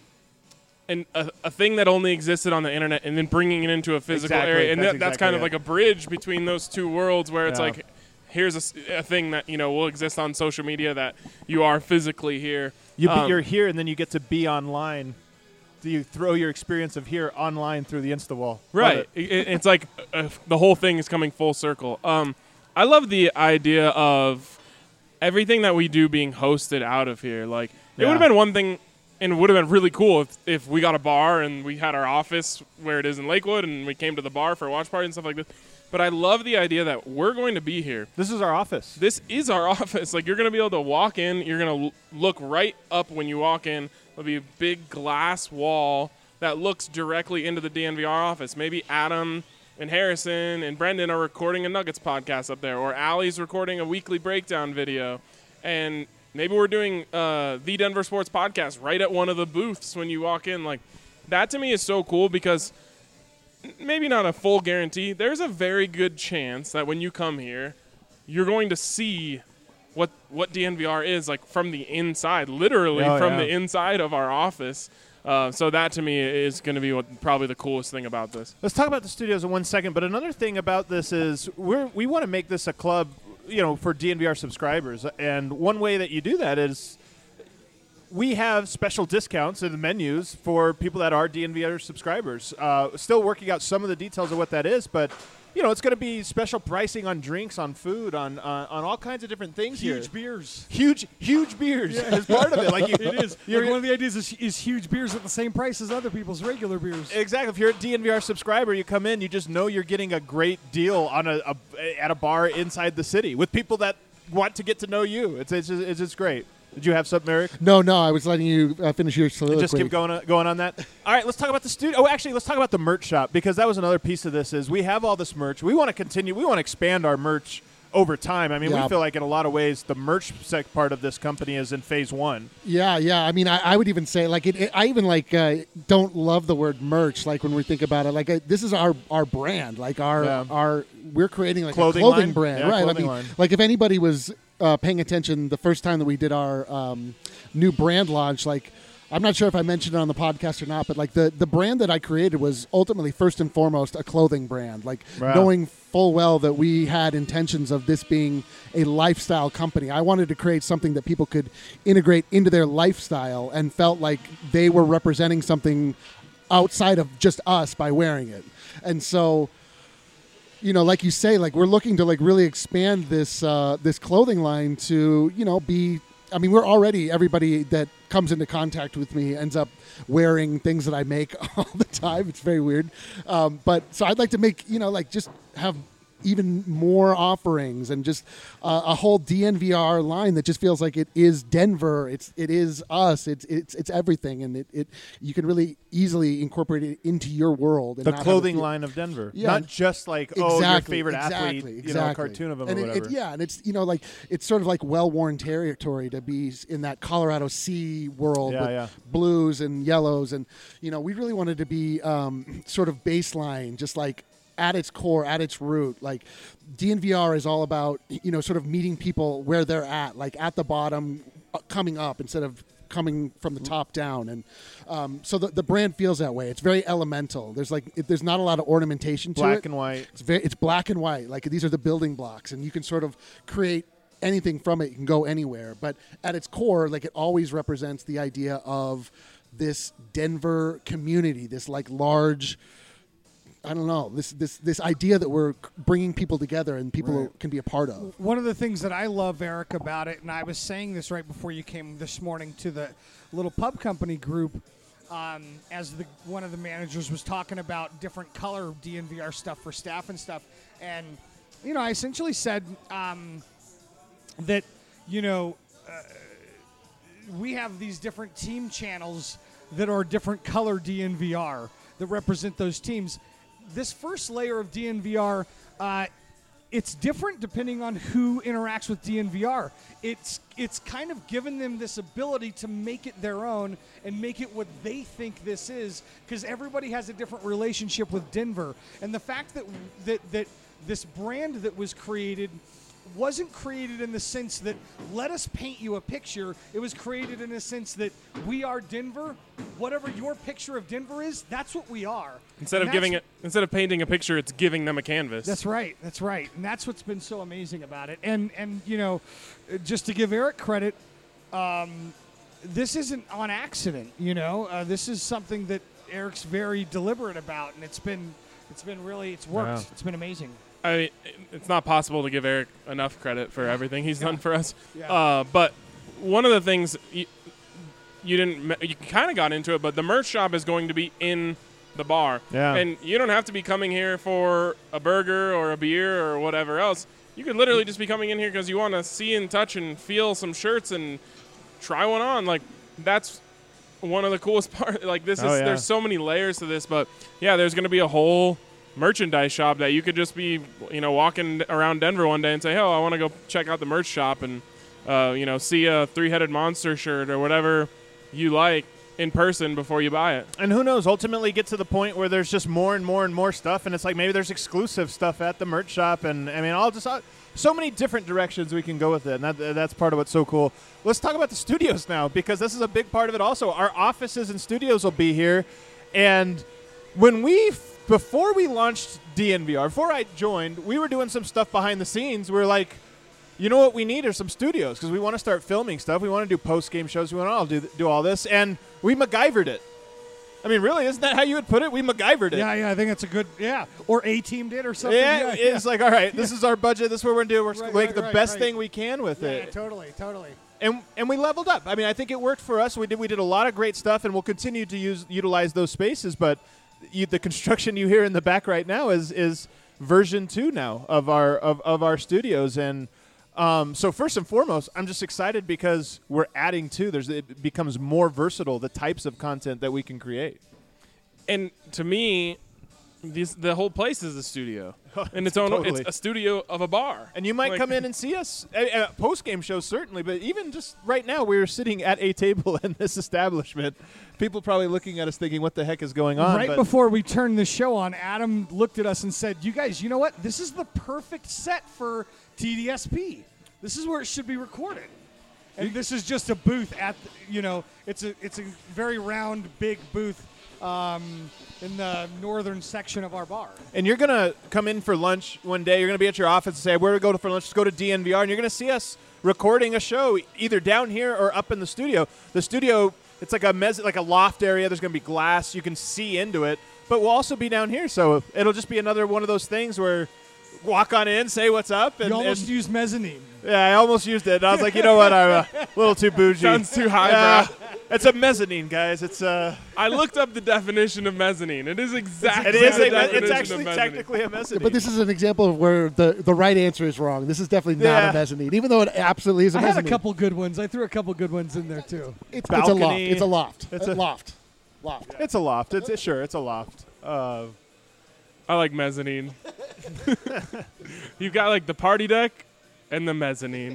And a, a thing that only existed on the internet, and then bringing it into a physical Exactly. area, and That's that, that's exactly kind of it. like a bridge between those two worlds, where it's Yeah. like, here's a, s- a thing that you know will exist on social media that you are physically here. You be, Um, you're here, and then you get to be online. Do you throw your experience of here online through the Instawall? Love Right. it. It, it's like uh, the whole thing is coming full circle. Um, I love the idea of everything that we do being hosted out of here. Like, it Yeah. would have been one thing, and it would have been really cool if, if we got a bar and we had our office where it is in Lakewood, and we came to the bar for a watch party and stuff like this. But I love the idea that we're going to be here. This is our office. This is our office. Like, you're going to be able to walk in. You're going to l- look right up when you walk in. There'll be a big glass wall that looks directly into the D N V R office. Maybe Adam and Harrison and Brendan are recording a Nuggets podcast up there, or Allie's recording a weekly breakdown video. And maybe we're doing uh, the Denver Sports Podcast right at one of the booths when you walk in. Like, that to me is so cool because maybe not a full guarantee. There's a very good chance that when you come here, you're going to see what what D N V R is like from the inside, literally Oh, from yeah. the inside of our office. Uh, so that to me is going to be what probably the coolest thing about this. Let's talk about the studios in one second. But another thing about this is we're we want to make this a club, you know, for D N V R subscribers. And one way that you do that is we have special discounts in the menus for people that are D N V R subscribers. Uh, still working out some of the details of what that is, but you know, it's going to be special pricing on drinks, on food, on uh, on all kinds of different things here. Huge beers. Huge, huge beers is part of it. Like you, It is. You're, Like one of the ideas is, is huge beers at the same price as other people's regular beers. Exactly. If you're a D N V R subscriber, you come in, you just know you're getting a great deal on a, a at a bar inside the city with people that want to get to know you. It's it's just, it's just great. Did you have something, Eric? No, no, I was letting you uh, finish your soliloquy. Just keep going on, going on that. All right, let's talk about the studio. Oh, actually, let's talk about the merch shop, because that was another piece of this. Is we have all this merch. We want to continue. We want to expand our merch over time. I mean, Yeah. we feel like in a lot of ways the merch sec part of this company is in phase one. Yeah, yeah. I mean, I, I would even say like it, it, I even like uh, don't love the word merch. Like when we think about it, like uh, this is our our brand. Like our Yeah. our we're creating like Clothing a clothing line? brand, Yeah, right? clothing I mean, line. like if anybody was uh, paying attention the first time that we did our um, new brand launch, like. I'm not sure if I mentioned it on the podcast or not, but like the, the brand that I created was ultimately first and foremost a clothing brand. Like Wow. knowing full well that we had intentions of this being a lifestyle company. I wanted to create something that people could integrate into their lifestyle and felt like they were representing something outside of just us by wearing it. And so, you know, like you say, like we're looking to like really expand this uh, this clothing line to, you know, be. I mean, we're already everybody that comes into contact with me ends up wearing things that I make all the time. It's very weird, um, but so I'd like to make you know like just have even more offerings and just uh, a whole D N V R line that just feels like it is Denver. It's it is us. It's it's it's everything, and it, it you can really easily incorporate it into your world. And The not have it clothing feel- line of Denver, Yeah. not just like oh your Exactly, favorite exactly, athlete, you exactly. know, a cartoon of them and or it- whatever. It, yeah, and it's you know like it's sort of like well-worn territory to be s- in that Colorado Sea world Yeah, with yeah. blues and yellows, and you know we really wanted to be um, sort of baseline, just like at its core, at its root. Like D N V R is all about you know sort of meeting people where they're at, like at the bottom, uh, coming up instead of coming from the top down, and um, so the, the brand feels that way. It's very elemental. There's like it, there's not a lot of ornamentation to it. Black and white. It's very it's black and white. Like these are the building blocks, and you can sort of create anything from it. You can go anywhere, but at its core, like it always represents the idea of this Denver community, this like large. I don't know this this this idea that we're bringing people together and people Right. can be a part of. One of the things that I love, Eric, about it, and I was saying this right before you came this morning to the little pub company group, um, as the one of the managers was talking about different color D N V R stuff for staff and stuff, and you know, I essentially said um, that you know uh, we have these different team channels that are different color D N V R that represent those teams. This first layer of D N V R, uh, it's different depending on who interacts with D N V R. It's it's kind of given them this ability to make it their own and make it what they think this is, because everybody has a different relationship with Denver. And the fact that that that this brand that was created wasn't created in the sense that let us paint you a picture. It was created in the sense that we are Denver. Whatever your picture of Denver is, that's what we are. Instead And of giving that's- it, instead of painting a picture, it's giving them a canvas. That's right. That's right. And that's what's been so amazing about it. And and you know, uh, just to give Eric credit, um, this isn't on accident. You know, uh, this is something that Eric's very deliberate about, and it's been it's been really it's worked. Yeah. It's been amazing. I mean, it's not possible to give Eric enough credit for everything he's done for us. Yeah. Uh, but one of the things you, you didn't, me- you kind of got into it, but the merch shop is going to be in the bar. Yeah. And you don't have to be coming here for a burger or a beer or whatever else. You could literally just be coming in here because you want to see and touch and feel some shirts and try one on. Like, that's one of the coolest parts. Like, this Oh, is, yeah. there's so many layers to this, but yeah, there's going to be a whole merchandise shop that you could just be, you know, walking around Denver one day and say, oh, I want to go check out the merch shop and, uh, you know, see a three-headed monster shirt or whatever you like in person before you buy it. And who knows, ultimately get to the point where there's just more and more and more stuff, and it's like maybe there's exclusive stuff at the merch shop, and I mean, all just uh, so many different directions we can go with it, and that, that's part of what's so cool. Let's talk about the studios now, because this is a big part of it also. Our offices and studios will be here, and when we, before we launched D N V R, before I joined, we were doing some stuff behind the scenes. We were like, you know what we need are some studios, because we want to start filming stuff. We want to do post-game shows. We want to do, do all this, and we MacGyvered it. I mean, really, isn't that how you would put it? We MacGyvered it. Yeah, yeah, I think that's a good yeah. Or A Team did or something. Yeah, Yeah, it's like, all right, this is our budget. This is what we're going to do. We're Right, like right, the right, best right. thing we can with yeah, it. yeah, totally, totally. And and we leveled up. I mean, I think it worked for us. We did we did a lot of great stuff, and we'll continue to use utilize those spaces. But you, the construction you hear in the back right now is is version two now of our of, of our studios, and Um, so first and foremost, I'm just excited because we're adding to. There's it becomes more versatile the types of content that we can create. And to me, this, the whole place is a studio. In its own, Totally. it's a studio of a bar. And you might Like- come in and see us at, at post-game shows, certainly, but even just right now, we were sitting at a table in this establishment. People probably looking at us thinking, what the heck is going on? Right But before we turned the show on, Adam looked at us and said, "You guys, you know what? This is the perfect set for T D S P. This is where it should be recorded." And this is just a booth at, the, you know, it's a it's a very round, big booth um, in the northern section of our bar. And you're going to come in for lunch one day. You're going to be at your office and say, where do we go for lunch? Let's go to D N V R. And you're going to see us recording a show either down here or up in the studio. The studio, it's like a mes- like a loft area. There's going to be glass. You can see into it. But we'll also be down here. So it'll just be another one of those things where walk on in, say what's up. And, You almost and- used mezzanine. yeah, I almost used it. And I was like, you know what? I'm a little too bougie. Sounds too high, Yeah, bro. it's a mezzanine, guys. It's uh, I looked up the definition of mezzanine. It is exactly it is the a, me- definition it's of actually mezzanine. technically a mezzanine. But this is an example of where the, the right answer is wrong. This is definitely not Yeah. a mezzanine, even though it absolutely is a I had a mezzanine. couple good ones. I threw a couple good ones in there too. It's, it's a loft. balcony. It's a loft. It's a a- loft. Loft. It's a loft. It's it, sure. It's a loft. Uh, I like mezzanine. You've got like the party deck and the mezzanine.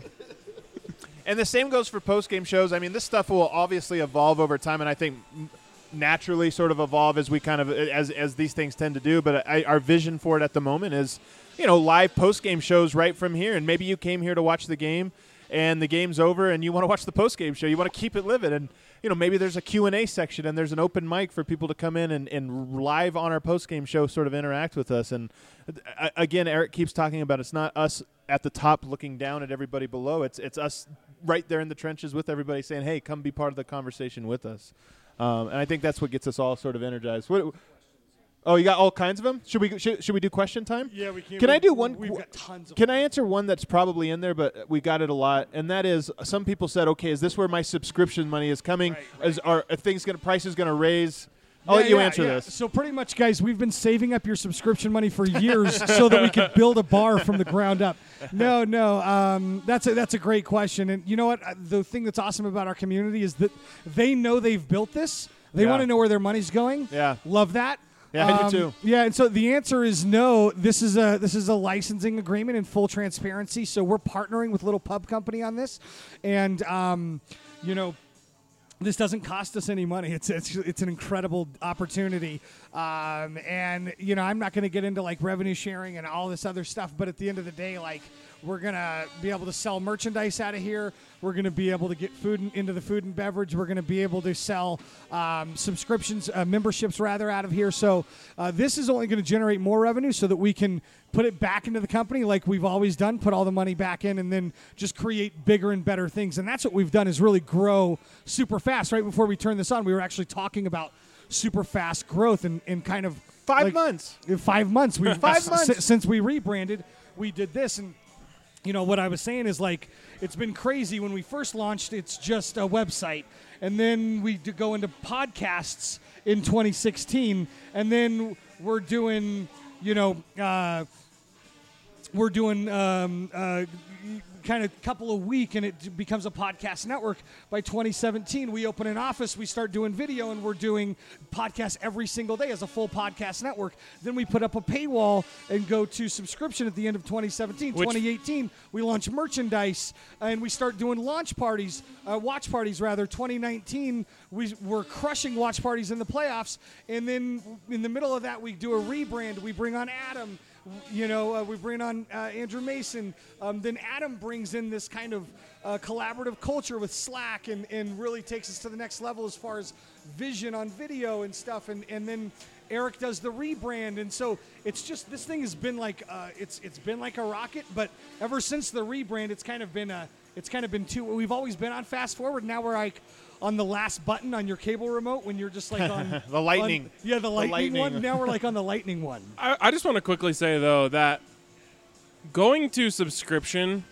and the same goes for post game shows. I mean, this stuff will obviously evolve over time, and I think m- naturally sort of evolve as we kind of as as these things tend to do. But I, our vision for it at the moment is, you know, live post game shows right from here. And maybe you came here to watch the game, and the game's over, and you want to watch the post game show. You want to keep it living, and you know, maybe there's a Q and A section and there's an open mic for people to come in and, and live on our post-game show sort of interact with us. And uh, again, Eric keeps talking about it's not us at the top looking down at everybody below. It's it's us right there in the trenches with everybody saying, hey, come be part of the conversation with us. Um, and I think that's what gets us all sort of energized. What, oh, you got all kinds of them? Should we should, should we do question time? Yeah, we can. Can I do one? We've got tons of Can I answer one that's probably in there, but we got it a lot, and that is some people said, okay, is this where my subscription money is coming? Right, right. Is are, are things going to prices going to raise? I'll let Yeah, you yeah, answer yeah. this. So pretty much, guys, we've been saving up your subscription money for years so that we could build a bar from the ground up. No, no, um, that's a, that's a great question. And you know what? Uh, The thing that's awesome about our community is that they know they've built this. They Yeah. want to know where their money's going. Yeah. Love that. Yeah, I do Um, too. Yeah, and so the answer is no. This is a this is a licensing agreement in full transparency. So we're partnering with Little Pub Company on this, and um, you know. This doesn't cost us any money. It's it's it's an incredible opportunity, um, and you know I'm not going to get into like revenue sharing and all this other stuff. But at the end of the day, like we're gonna be able to sell merchandise out of here. We're gonna be able to get food in, into the food and beverage. We're gonna be able to sell um, subscriptions, uh, memberships rather, out of here. So uh, this is only going to generate more revenue so that we can put it back into the company like we've always done, put all the money back in, and then just create bigger and better things. And that's what we've done is really grow super fast. Right before we turned this on, we were actually talking about super fast growth and, and kind of Five like, months. in five months. We've Five s- months. s- since we rebranded, we did this. And you know what I was saying is like it's been crazy. When we first launched, it's just a website, and then we d- go into podcasts in twenty sixteen, and then we're doing, you know, uh, we're doing um, uh, kind of couple a week, and it becomes a podcast network. By twenty seventeen, we open an office, we start doing video, and we're doing podcasts every single day as a full podcast network. Then we put up a paywall and go to subscription at the end of twenty seventeen. Which- twenty eighteen, we launch merchandise, and we start doing launch parties, uh, watch parties rather. twenty nineteen, we were crushing watch parties in the playoffs, and then in the middle of that, we do a rebrand. We bring on Adam. You know, uh, we bring on uh, Andrew Mason. Um, then Adam brings in this kind of uh, collaborative culture with Slack and, and really takes us to the next level as far as vision on video and stuff. And, and then Eric does the rebrand. And so it's just, this thing has been like, uh, it's it's been like a rocket. But ever since the rebrand, it's kind of been a, it's kind of been two. We've always been on fast forward. Now we're like on the last button on your cable remote when you're just like on The lightning. on- yeah, the lightning, lightning. one. Now we're like on the lightning one. I, I just want to quickly say though that going to subscription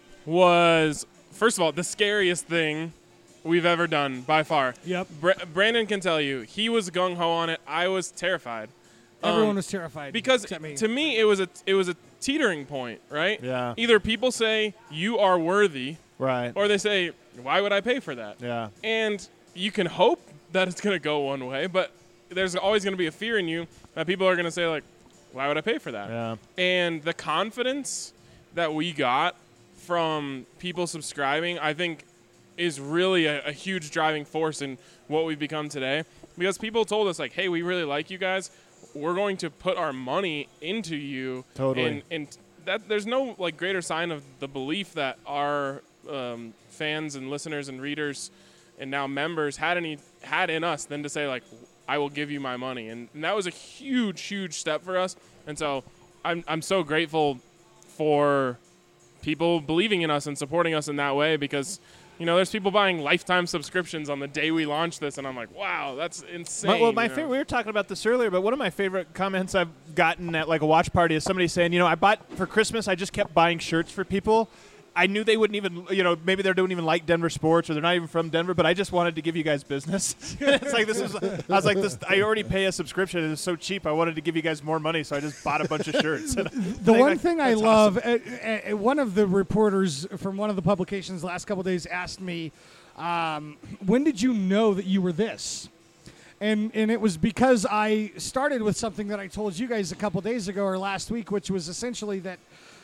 was, first of all, the scariest thing we've ever done by far. Yep. Bra- Brandon can tell you he was gung ho on it. I was terrified. Um, Everyone was terrified because except me. to me it was a it was a teetering point, right? Yeah. Either people say you are worthy, Right. or they say, why would I pay for that? Yeah. And you can hope that it's going to go one way, but there's always going to be a fear in you that people are going to say, like, why would I pay for that? Yeah. And the confidence that we got from people subscribing, I think, is really a, a huge driving force in what we've become today. Because people told us, like, hey, we really like you guys. We're going to put our money into you. Totally. And, and that there's no, like, greater sign of the belief that our um, fans and listeners and readers and now members had any had in us than to say, like, I will give you my money. And, and that was a huge, huge step for us. And so I'm I'm so grateful for people believing in us and supporting us in that way, because, you know, there's people buying lifetime subscriptions on the day we launched this, and I'm like, wow, that's insane. My, well, my you know? favorite, we were talking about this earlier, but one of my favorite comments I've gotten at like a watch party is somebody saying, you know, I bought for Christmas, I just kept buying shirts for people. I knew they wouldn't even, you know, maybe they don't even like Denver sports or they're not even from Denver, but I just wanted to give you guys business. It's like, this is, I was like, this, I already pay a subscription. It was so cheap. I wanted to give you guys more money, so I just bought a bunch of shirts. And The I one like, thing I that's love, awesome. uh, uh, one of the reporters from one of the publications the last couple of days asked me, um, when did you know that you were this? And and it was because I started with something that I told you guys a couple days ago or last week, which was essentially that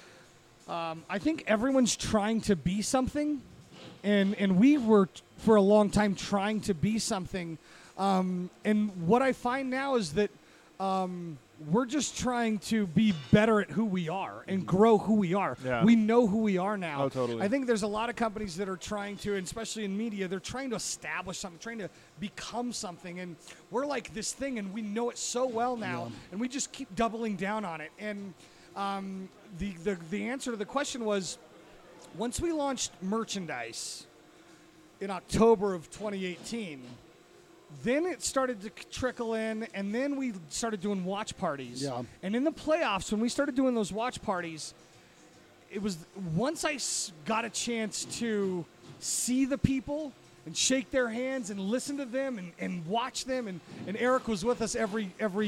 um, I think everyone's trying to be something, and and we were t- for a long time trying to be something. Um, and what I find now is that um, we're just trying to be better at who we are and grow who we are. Yeah. We know who we are now. Oh, totally. I think there's a lot of companies that are trying to, and especially in media, they're trying to establish something, trying to become something. And we're like this thing, and we know it so well now, and we just keep doubling down on it. And um, the, the, the answer to the question was, once we launched merchandise in October of twenty eighteen, then it started to trickle in, and then we started doing watch parties. Yeah. And in the playoffs, when we started doing those watch parties, it was once I s- got a chance to see the people and shake their hands and listen to them and, and watch them. And, and Eric was with us every every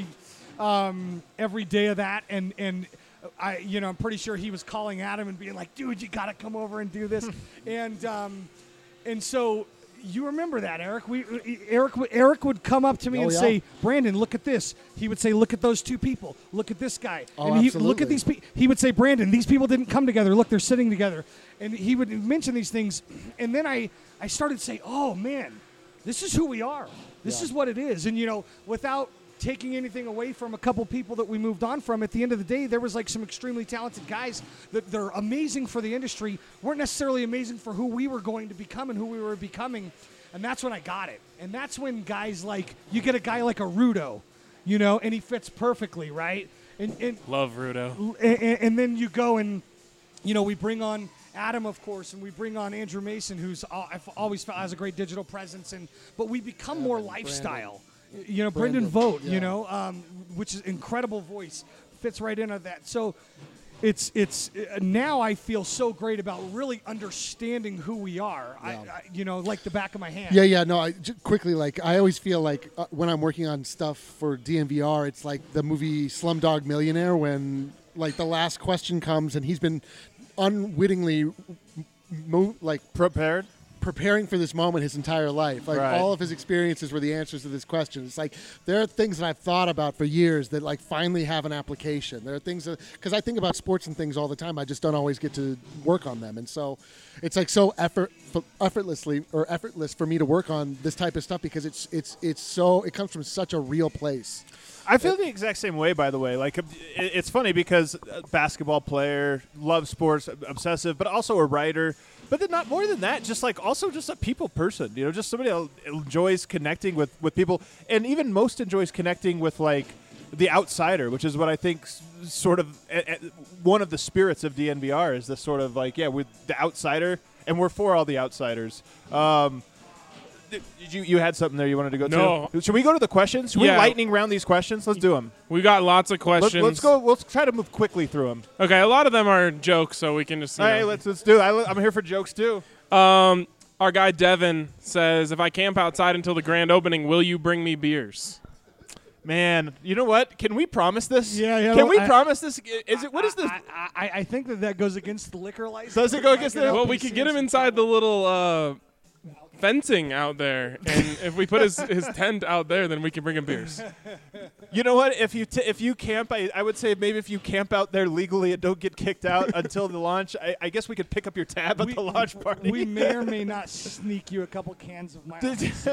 um, every day of that. And and I, you know, I'm pretty sure he was calling Adam and being like, "Dude, you got to come over and do this." and um, and so. You remember that, Eric? We Eric Eric would come up to me Oh, and yeah. say, "Brandon, look at this." He would say, "Look at those two people. Look at this guy." Oh, and he look absolutely. at these people. He would say, "Brandon, these people didn't come together. Look, they're sitting together." And he would mention these things, and then I I started to say, "Oh man, this is who we are. This Yeah. is what it is." And you know, without taking anything away from a couple people that we moved on from, at the end of the day, there was like some extremely talented guys that they're amazing for the industry, weren't necessarily amazing for who we were going to become and who we were becoming. And that's when I got it. And that's when guys like, you get a guy like a Rudo, you know, and he fits perfectly, right? And and, Love Rudo. and, and then you go and, you know, we bring on Adam, of course, and we bring on Andrew Mason, who's al- I've always felt has a great digital presence. And but we become more lifestyle. You know, Brendan, Brandon, Vogt, yeah. you know, um, which is incredible voice, fits right into that. So it's it's uh, now I feel so great about really understanding who we are. I, Yeah. I, you know, like the back of my hand. Yeah, yeah, no, I, j- quickly, like, I always feel like uh, when I'm working on stuff for D N V R, it's like the movie Slumdog Millionaire when, like, the last question comes and he's been unwittingly, mo- like, Prepared? preparing for this moment his entire life. Like, Right. all of his experiences were the answers to this question. It's like, there are things that I've thought about for years that, like, finally have an application. There are things that, because I think about sports and things all the time, I just don't always get to work on them. And so it's like so effort, effortlessly or effortless for me to work on this type of stuff because it's, it's, it's so, it comes from such a real place. I feel the exact same way, by the way. Like, it- it's funny because a basketball player, loves sports, obsessive, but also a writer. But then not more than that, just like also just a people person. You know, just somebody that enjoys connecting with, with people, and even most enjoys connecting with like the outsider, which is what I think s- sort of eh, eh, one of the spirits of D N V R is this sort of like yeah, with the outsider, and we're for all the outsiders. Um, Did you you had something there you wanted to go No. to? Should we go to the questions? Should Yeah. we lightning round these questions? Let's do them. We got lots of Let's, questions. let's go. Let's try to move quickly through them. Okay, a lot of them are jokes, so we can just. you All right, know. let's let's do it. I, I'm here for jokes too. Um, our guy Devin says, "If I camp outside until the grand opening, will you bring me beers?" Man, you know what? Can we promise this? Yeah, yeah, Can well, we I- promise this? Is it? What is this? I, I, I think that that goes against the liquor license. Does it go against the- Well, we could get him inside the little uh, fencing out there, and if we put his, his tent out there, then we can bring him beers. You know what? If you t- if you camp, I, I would say maybe if you camp out there legally and don't get kicked out until the launch, I, I guess we could pick up your tab at We- the launch party. We may or may not sneak you a couple cans of my.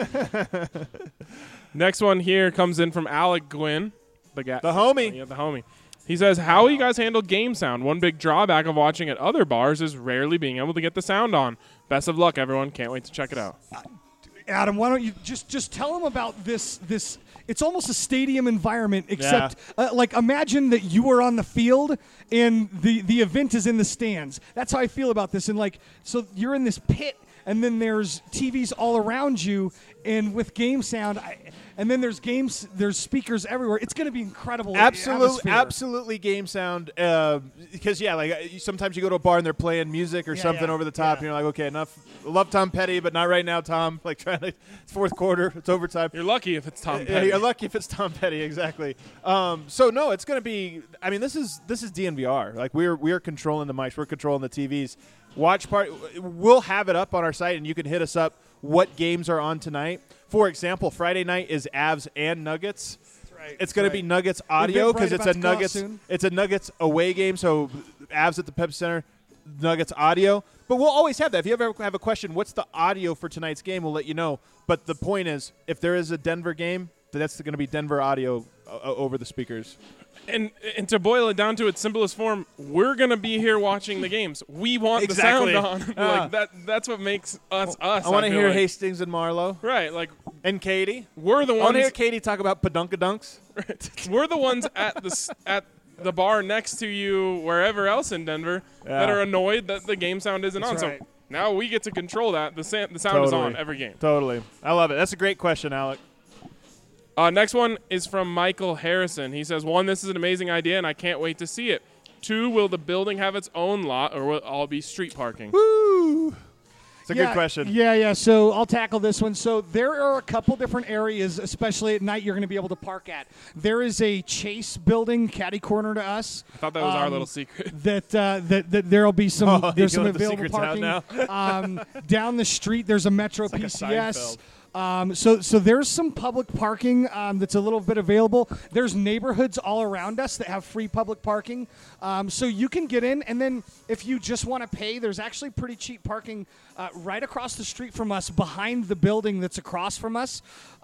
Next one here comes in from Alec Gwynn, the guy, The homie. Yeah, the homie. He says, "How you guys handle game sound? One big drawback of watching at other bars is rarely being able to get the sound on. Best of luck, everyone. Can't wait to check it out." Adam, why don't you just just tell them about this this it's almost a stadium environment, except uh, like imagine that you are on the field and the the event is in the stands. That's how I feel about this. And like, so you're in this pit, and then there's T Vs all around you, and with game sound, I, and then there's games, there's speakers everywhere. It's going to be incredible. Absolutely, atmosphere. absolutely game sound. Because yeah, like uh, sometimes you go to a bar and they're playing music or Yeah, something yeah, over the top, yeah. and you're like, okay, enough. Love Tom Petty, but not right now, Tom. Like trying to, it's fourth quarter, it's overtime. You're lucky if it's Tom Yeah, Petty. you're lucky if it's Tom Petty, exactly. Um, so no, it's going to be. I mean, this is this is D N V R. Like we're we're controlling the mics, we're controlling the T Vs. Watch part. We'll have it up on our site, and you can hit us up. What games are on tonight? For example, Friday night is Avs and Nuggets. right. It's going That's to be right. Nuggets audio Eventbrite because it's about a to go out Nuggets. soon. It's a Nuggets away game, so Avs at the Pepsi Center, Nuggets audio. But we'll always have that. If you ever have a question, what's the audio for tonight's game? We'll let you know. But the point is, if there is a Denver game, that's going to be Denver audio uh, over the speakers. And and to boil it down to its simplest form, we're gonna be here watching the games. We want Exactly. the sound on. Ah. like that. That's what makes us us. I want to feel hear like. Hastings and Marlowe Right, like and Katie. we're the I want to hear ones. Katie talk about Padunkadunks. We're the ones at the s- at the bar next to you, wherever else in Denver, that Yeah. are annoyed that the game sound isn't That's on. right. So now we get to control that. The sa- the sound is Totally. on every game. Totally. I love it. That's a great question, Alec. Uh, next one is from Michael Harrison. He says, one, this is an amazing idea, and I can't wait to see it. Two, will the building have its own lot, or will it all be street parking? Woo! It's a yeah, good question. Yeah, yeah. So I'll tackle this one. So there are a couple different areas, especially at night, you're going to be able to park at. There is a Chase building, catty corner to us. I thought that was our um, little secret. That uh, that that there'll be some Oh, there's you some let the available secrets out parking. um, down the street, there's a Metro like a P C S. Seinfeld. Um, so, so there's some public parking um, that's a little bit available. There's neighborhoods all around us that have free public parking, um, so you can get in. And then, if you just want to pay, there's actually pretty cheap parking uh, right across the street from us, behind the building that's across from us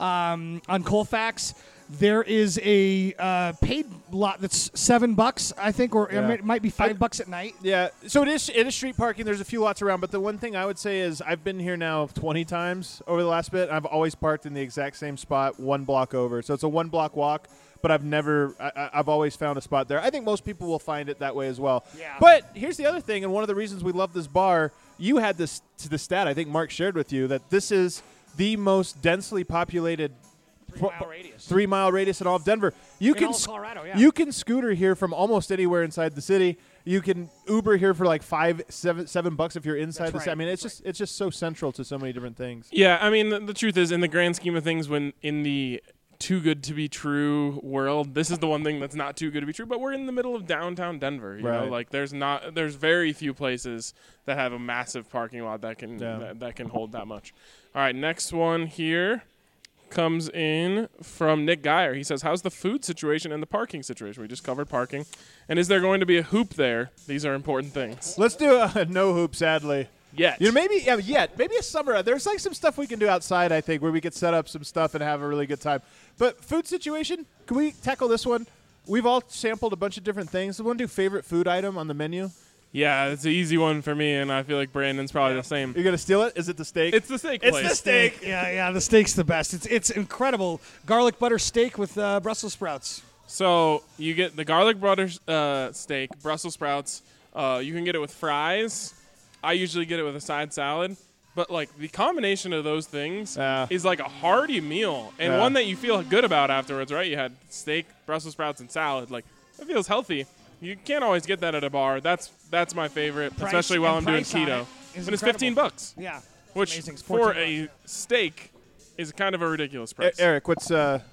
um, on Colfax. There is a uh, paid lot that's seven bucks, I think, or Yeah. it might be five I- bucks at night. Yeah, so it is it is street parking. There's a few lots around, but the one thing I would say is I've been here now twenty times over the last bit. I've always parked in the exact same spot, one block over. So it's a one block walk, but I've never I, I- I've always found a spot there. I think most people will find it that way as well. Yeah. But here's the other thing, and one of the reasons we love this bar. You had this to the stat I think Mark shared with you that this is the most densely populated Three-mile radius. three mile radius in all of Denver. You In can all of s- Colorado, yeah. you can scooter here from almost anywhere inside the city. You can Uber here for like five, seven, seven bucks if you're inside That's the city. I right. mean, it's just it's just so central to so many different things. Yeah, I mean, the, the truth is, in the grand scheme of things, when in the too good to be true world, this is the one thing that's not too good to be true. But we're in the middle of downtown Denver. You know, Right. like there's not, there's very few places that have a massive parking lot that can Yeah. that, that can hold that much. All right, next one here comes in from Nick Geyer. He says, how's the food situation and the parking situation? We just covered parking. And is there going to be a hoop there? These are important things. Let's do a no hoop. Sadly, Yet. you know, maybe yeah, yet maybe a summer. There's like some stuff we can do outside. I think where we could set up some stuff and have a really good time. But food situation, can we tackle this one? We've all sampled a bunch of different things. We want to do favorite food item on the menu. Yeah, it's an easy one for me, and I feel like Brandon's probably the same. You're gonna steal it? Is it the steak? It's the steak It's place. the steak. Yeah, yeah, the steak's the best. It's it's incredible. Garlic butter steak with uh, Brussels sprouts. So you get the garlic butter uh, steak, Brussels sprouts. Uh, you can get it with fries. I usually get it with a side salad. But like the combination of those things Yeah. is like a hearty meal and Yeah. one that you feel good about afterwards, right? You had steak, Brussels sprouts, and salad. Like it feels healthy. You can't always get that at a bar. That's that's my favorite, Price especially while I'm and doing price on keto. it And is it's incredible. fifteen bucks, Yeah, which amazing. It's for fourteen a bucks. steak is kind of a ridiculous E- price. Eric, what's uh,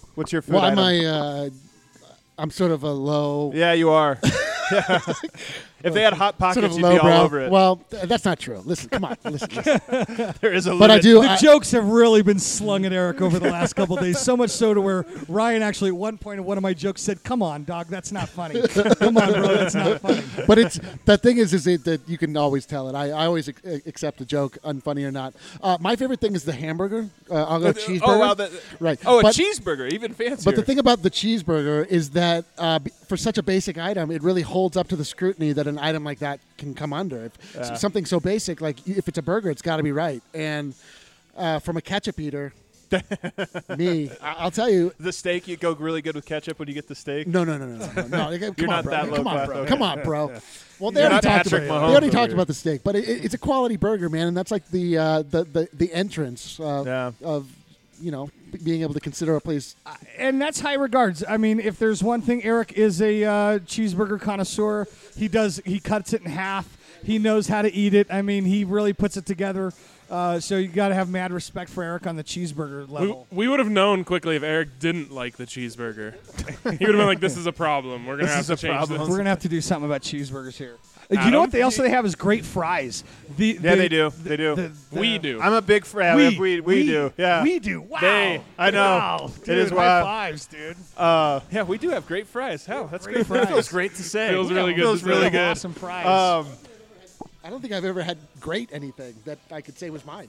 What's your food Well, I'm item? a, uh, I'm sort of a low, Yeah, you are. Yeah. If they had hot pockets, sort of you'd be all lowbrow. over it. Well, th- that's not true. Listen, come on, listen. listen. there is a But I limit. do. The I, jokes have really been slung at Eric over the last couple of days. So much so to where Ryan actually at one point in one of my jokes said, "Come on, dog, that's not funny. Come on, bro, that's not funny." but it's the thing is, is it, that you can always tell it. I, I always ac- accept a joke, unfunny or not. Uh, my favorite thing is the hamburger. Uh, I'll go cheeseburger. Oh, wow, the, right. Oh, but, a cheeseburger, even fancier. But the thing about the cheeseburger is that uh, b- for such a basic item, it really holds up to the scrutiny that an item like that can come under. If Yeah. s- something so basic, like y- if it's a burger, it's got to be right. And uh, from a ketchup eater, me, I- I'll tell you, the steak, you go really good with ketchup when you get the steak. no, no, no, no, no, no. no. Come You're on, not bro. that low Come on, class, bro. okay. Come on, bro. Well, they You're already not talked Patrick about Mahomes they already over talked here. about the steak, but it, it- it's a quality burger, man, and that's like the uh, the, the the entrance uh, Yeah. of you know b- being able to consider a place. And that's high regards. I mean, if there's one thing, Eric is a uh, cheeseburger connoisseur. He does. He cuts it in half. He knows how to eat it. I mean, he really puts it together. Uh, so you got to have mad respect for Eric on the cheeseburger We, level. we would have known quickly if Eric didn't like the cheeseburger. he would have been like, "This is a problem. We're gonna This have is to a change problem. this." We're gonna have to do something about cheeseburgers here. Uh, You Adam? know what they also they have is great fries. The, Yeah, the- they do. They do. the- the- We do. I'm a big fan. We, We, we, do. Yeah. We do. Wow. They- I know. Wow. It Dude, is high wild. fives, dude. Uh, yeah, we do have great fries. Hell, that's Great great. fries. That feels great to say. Feels really good Feels to really say. good. Awesome fries. Um, I don't think I've ever had great anything that I could say was mine.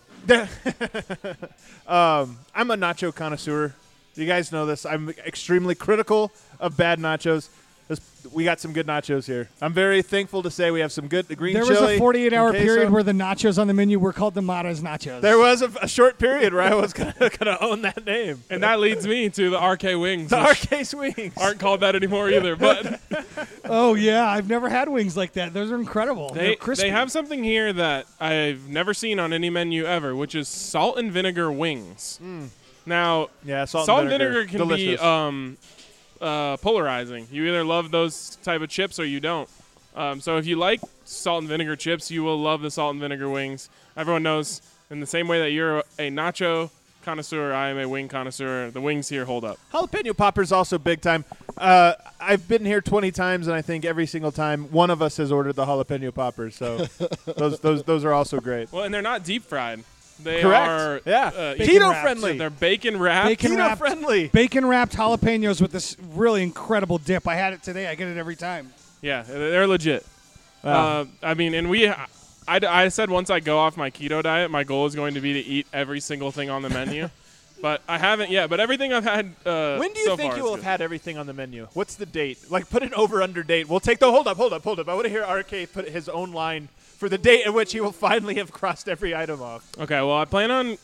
um, I'm a nacho connoisseur. You guys know this. I'm extremely critical of bad nachos. This- We got some good nachos here. I'm very thankful to say we have some good green there chili. was a forty-eight hour and queso. period where the nachos on the menu were called the Mata's Nachos. There was a, a short period where I was gonna, gonna own that name. And that leads me to the R K wings, The which R K Swings. aren't called that anymore either. But Oh yeah, I've never had wings like that. Those are incredible. They're they crispy. they have something here that I've never seen on any menu ever, which is salt and vinegar wings. Now, Yeah, salt, salt and and vinegar, vinegar can Delicious. be um, uh, polarizing. You either love those type of chips or you don't. Um, so if you like salt and vinegar chips, you will love the salt and vinegar wings. Everyone knows in the same way that you're a nacho connoisseur, I am a wing connoisseur. The wings here hold up. Jalapeno poppers also big time. Uh, I've been here twenty times, and I think every single time one of us has ordered the jalapeno poppers. So those those those are also great. Well, and they're not deep fried. They Correct. are Yeah. uh, Bacon Keto wrapped. friendly. They're bacon wrapped. Bacon Keto wrapped. friendly. Bacon wrapped jalapenos with this really incredible dip. I had it today. I get it every time. Yeah, they're legit. Wow. Uh, I mean, and we, I, I said once I go off my keto diet, my goal is going to be to eat every single thing on the menu. But I haven't yet. But everything I've had uh, When do you so think far you is will have good. had everything on the menu? What's the date? Like, put an over under date. We'll take the hold up, hold up, hold up. I want to hear R K put his own line for the date at which he will finally have crossed every item off. Okay, well, I plan on.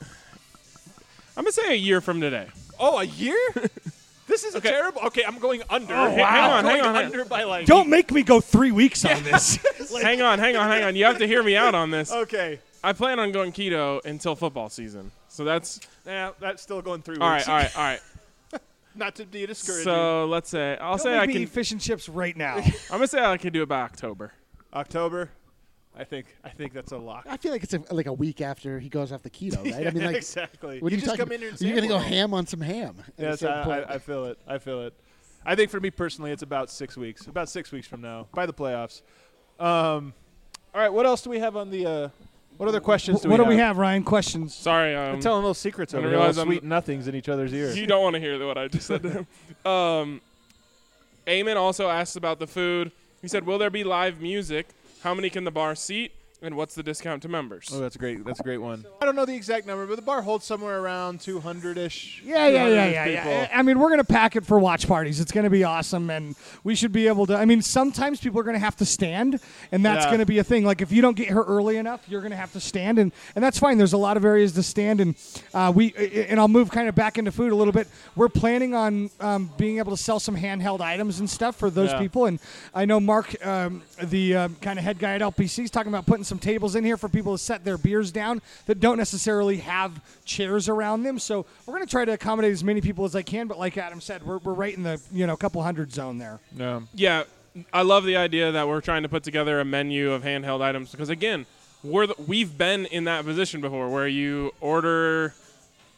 I'm gonna say a year from today. Oh, a year? This is Okay. a terrible. Okay, I'm going under. Oh, hang wow. on, I'm going hang on, hang on. under by like. Don't make me go three weeks on this. hang on, hang on, hang on. You have to hear me out on this. Okay. I plan on going keto until football season. So that's Yeah, that's still going three all weeks. right, all right, all right. Not to be discouraging. So let's say I'll Don't say make I me can. eat fish and chips right now. I'm gonna say I can do it by October. October. I think. I think that's a lock. I feel like it's a, like a week after he goes off the keto, right? I mean, like, exactly. what are you you just talking come in here and You're gonna go sample. ham on some ham. at a Yes, certain I, point. I, I feel it. I feel it. I think for me personally, it's about six weeks. About six weeks from now, by the playoffs. Um, all right. What else do we have on the? Uh, what other questions do what we do have? we have, Ryan? Questions? Sorry, We're um, telling little secrets I over didn't here. realize Little I'm- sweet nothings in each other's ears. you don't want to hear what I just said to him. Um, Eamon also asked about the food. He said, "Will there be live music? How many can the bar seat? And what's the discount to members?" Oh, that's a great. That's a great one. I don't know the exact number, but the bar holds somewhere around two hundred ish. Yeah, yeah, yeah, yeah, yeah. I mean, we're going to pack it for watch parties. It's going to be awesome, and we should be able to. I mean, sometimes people are going to have to stand, and that's Yeah. going to be a thing. Like, if you don't get here early enough, you're going to have to stand, and, and that's fine. There's a lot of areas to stand, and uh, we and I'll move kind of back into food a little bit. We're planning on um, being able to sell some handheld items and stuff for those Yeah. people, and I know Mark, um, the um, kind of head guy at L P C, is talking about putting some tables in here for people to set their beers down that don't necessarily have chairs around them. So we're going to try to accommodate as many people as I can. But like Adam said, we're, we're right in the you know couple hundred zone there. Yeah. Yeah, I love the idea that we're trying to put together a menu of handheld items because again, we're the, we've been in that position before where you order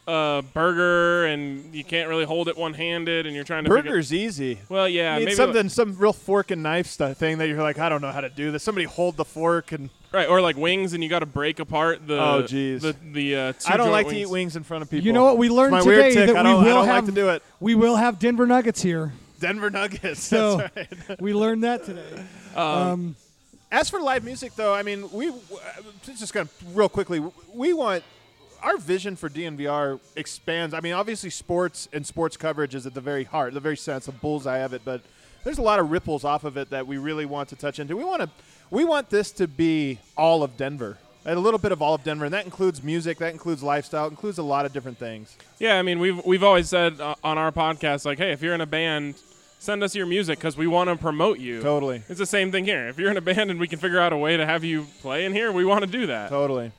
a burger and you can't really hold it one-handed and you're trying to figure- Burger's easy. Well, yeah, You need maybe something, like, some real fork and knife stuff thing that you're like, I don't know how to do this. Somebody hold the fork and. right, or like wings and you got to break apart the Oh, jeez. the the uh, two I don't joint like wings. to eat wings in front of people. You know what we learned It's my today weird tick. that I we don't, will I don't have like to do it. we will have Denver Nuggets here. Denver Nuggets. So That's right. we learned that today. Um, Um, As for live music, though, I mean, we just kind of real quickly, we want our vision for D N V R expands. I mean, obviously, sports and sports coverage is at the very heart, the very sense, the bullseye of it. But there's a lot of ripples off of it that we really want to touch into. We want to, we want this to be all of Denver, a little bit of all of Denver, and that includes music, that includes lifestyle, it includes a lot of different things. Yeah, I mean, we've we've always said uh, on our podcast, like, hey, if you're in a band, send us your music because we want to promote you. Totally, It's the same thing here. If you're in a band and we can figure out a way to have you play in here, we want to do that. totally.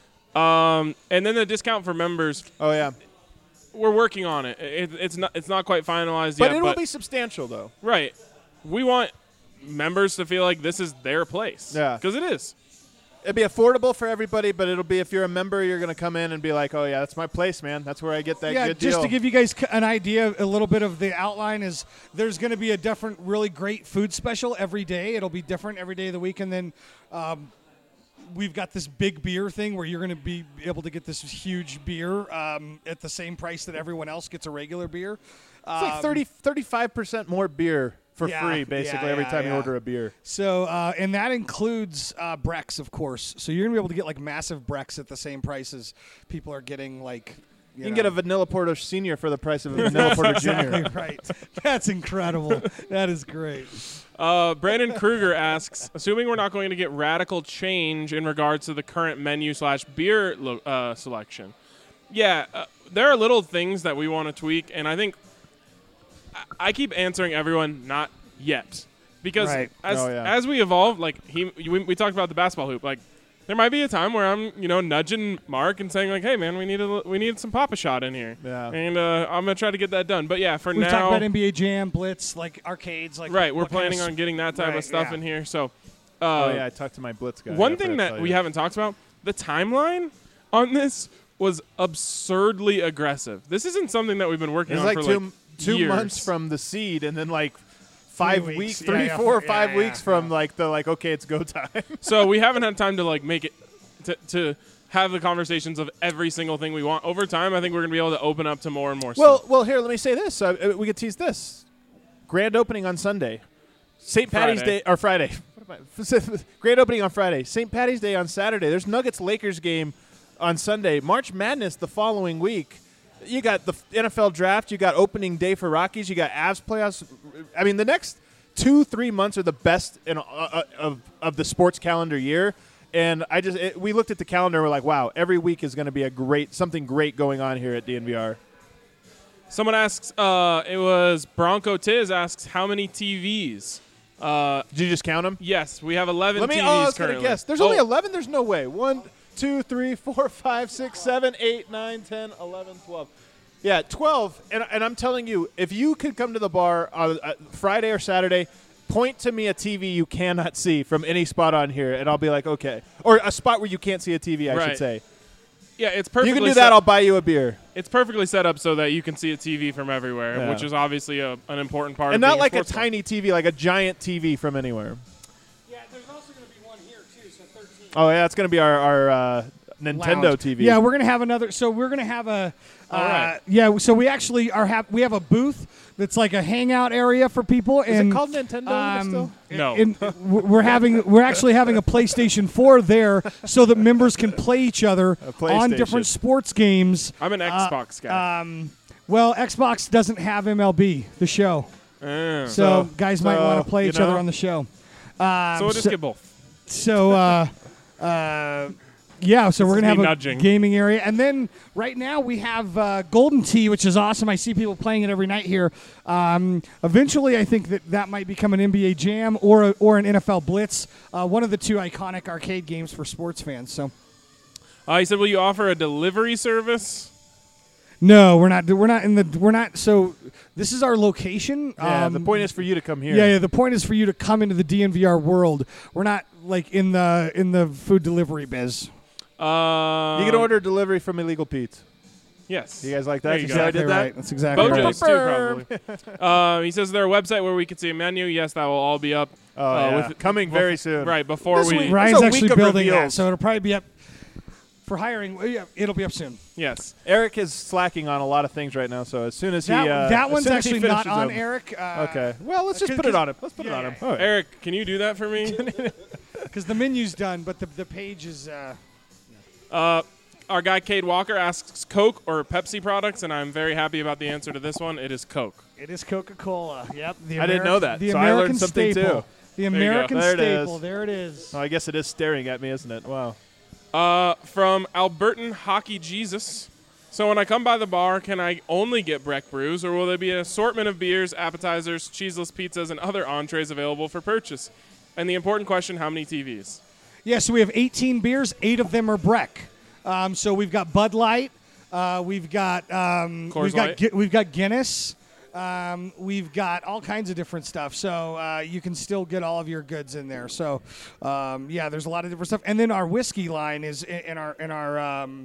Um, and then the discount for members, Oh yeah, we're working on it. it it's not it's not quite finalized but yet. it will but be substantial, though. right. We want members to feel like this is their place. Yeah. because it is. It'll be affordable for everybody, but it'll be if you're a member, you're going to come in and be like, oh, yeah, that's my place, man. That's where I get that yeah, good just deal. to give you guys c- an idea, a little bit of the outline is there's going to be a different, really great food special every day. It'll be different every day of the week, and then um, we've got this big beer thing where you're going to be able to get this huge beer um, at the same price that everyone else gets a regular beer. It's like Um, thirty, thirty-five percent more beer for Yeah, free, basically, yeah, every yeah, time you yeah. order a beer. So, uh, and that includes uh, Brex, of course. So you're going to be able to get like massive Brex at the same price as people are getting like. You, can get a Vanilla Porter Senior for the price of a Vanilla Porter Junior Exactly right. That's incredible. That is great. Uh, Brandon Kruger asks, assuming we're not going to get radical change in regards to the current menu slash beer lo- uh, selection. Yeah, uh, there are little things that we want to tweak, and I think I, I keep answering everyone not yet because Right. as Oh, yeah. as we evolve, like he we, we talked about the basketball hoop, like there might be a time where I'm you know nudging Mark and saying like, hey man, we need a we need some Papa Shot in here, Yeah. and uh, I'm gonna try to get that done. But yeah, for We've now, talked about N B A Jam, Blitz, like arcades, like right, we're what kind of planning s- on getting that type Right, of stuff yeah. in here. So. Uh, oh, yeah, I talked to my Blitz guy. One I thing forgot to that tell we you. haven't talked about, the timeline on this was absurdly aggressive. This isn't something that we've been working It's on like for two, like two years. months from the seed and then like five weeks. weeks, Yeah, three, yeah, four, or yeah, five yeah, weeks from yeah. like the like, okay, it's go time. So we haven't had time to like make it to, to have the conversations of every single thing we want. Over time, I think we're going to be able to open up to more and more well, stuff. well, here, let me say this. Uh, we could tease this. Grand opening on Sunday. Saint Patty's Friday. Day, or Friday. What am I? Grand opening on Friday. Saint Patty's Day on Saturday. There's Nuggets-Lakers game on Sunday. March Madness the following week. You got the N F L draft. You got opening day for Rockies. You got Avs playoffs. I mean, the next two, three months are the best in, uh, uh, of of the sports calendar year. And I just it, we looked at the calendar. and We're like, wow, every week is going to be a great something great going on here at D N V R. Someone asks, uh, it was Bronco Tiz asks, how many T Vs? Uh, Did you just count them? yes, we have eleven Let me. T Vs Oh, I was currently. gonna guess. There's Oh, only eleven. There's no way. One, two, three, four, five, six, seven, eight, nine, ten, eleven, twelve. Yeah, twelve. And and I'm telling you, if you could come to the bar on uh, Friday or Saturday, point to me a T V you cannot see from any spot on here, and I'll be like, okay. Or a spot where you can't see a T V, I Right. should say. Yeah, it's You perfectly can do set- that. I'll buy you a beer. It's perfectly set up so that you can see a T V from everywhere, Yeah. which is obviously a, an important part And of not being like a sports fan. tiny T V, like a giant T V from anywhere. Yeah, there's also going to be one here too, so thirteen. Oh, yeah, it's going to be our, our uh, Nintendo Lounge. T V. Yeah, we're gonna have another. So we're gonna have a. Uh, All right. Yeah, so we actually are have we have a booth that's like a hangout area for people. Is and it called Nintendo um, still? No. and we're having we're actually having a PlayStation four there so that members can play each other on PlayStation. different sports games. I'm an Uh, Xbox guy. Um, well, Xbox doesn't have M L B, the show, Uh, so, So- guys might so, want to play you each other know. on the show. Um, so we'll just so, get both. so, uh, uh, yeah, so we're is gonna have me a nudging. gaming area, and then right now we have uh, Golden Tee, which is awesome. I see people playing it every night here. Um, eventually, I think that that might become an N B A Jam or a, or an N F L Blitz, uh, one of the two iconic arcade games for sports fans. So, Uh, he said, "Will you offer a delivery service?" no, we're not. We're not in the. We're not. So, this is our location. Yeah, Um, the point is for you to come here. Yeah, yeah. The point is for you to come into the D N V R world. We're not like in the in the food delivery biz. Uh, You can order delivery from Illegal Pete's. Yes. You guys like There that? you You go. see how I Exactly did that? right. That's exactly right. Bojangles too, probably. uh, he says there a website where we can see a menu. Yes, that will all be up. Oh, uh, yeah. with, Coming bef- very soon. Right, before This we... week. Ryan's It's a actually week of building that, reveals. so it'll probably be up for hiring. well, Yeah, it'll be up soon. Yes. Eric is slacking on a lot of things right now, so as soon as That, he uh, that as one's soon as he actually not finishes on them- Eric. Uh, Okay. Well, let's just cause- put it cause- on him. Let's put yeah, it on yeah. him. All right. Eric, can you do that for me? Because the menu's done, but the the page is. Uh, uh, our guy Cade Walker asks Coke or Pepsi products, and I'm very happy about the answer to this one. It is Coke. it is Coca-Cola. Yep. The I didn't know that, The so I American learned something staple. too. The you go. American There it staple. is. There it is. Oh, I guess it is staring at me, isn't it? Wow. Uh, from Albertan Hockey Jesus. So when I come by the bar, can I only get Breck brews, or will there be an assortment of beers, appetizers, cheeseless pizzas, and other entrees available for purchase? And the important question, how many T Vs? Yeah, so we have eighteen beers. Eight of them are Breck. Um, so we've got Bud Light. Uh, we've got um, Coors we've got Light. Gu- we've got Guinness. Um, we've got all kinds of different stuff. So uh, you can still get all of your goods in there. So um, yeah, there's a lot of different stuff. And then our whiskey line is in, in our in our um,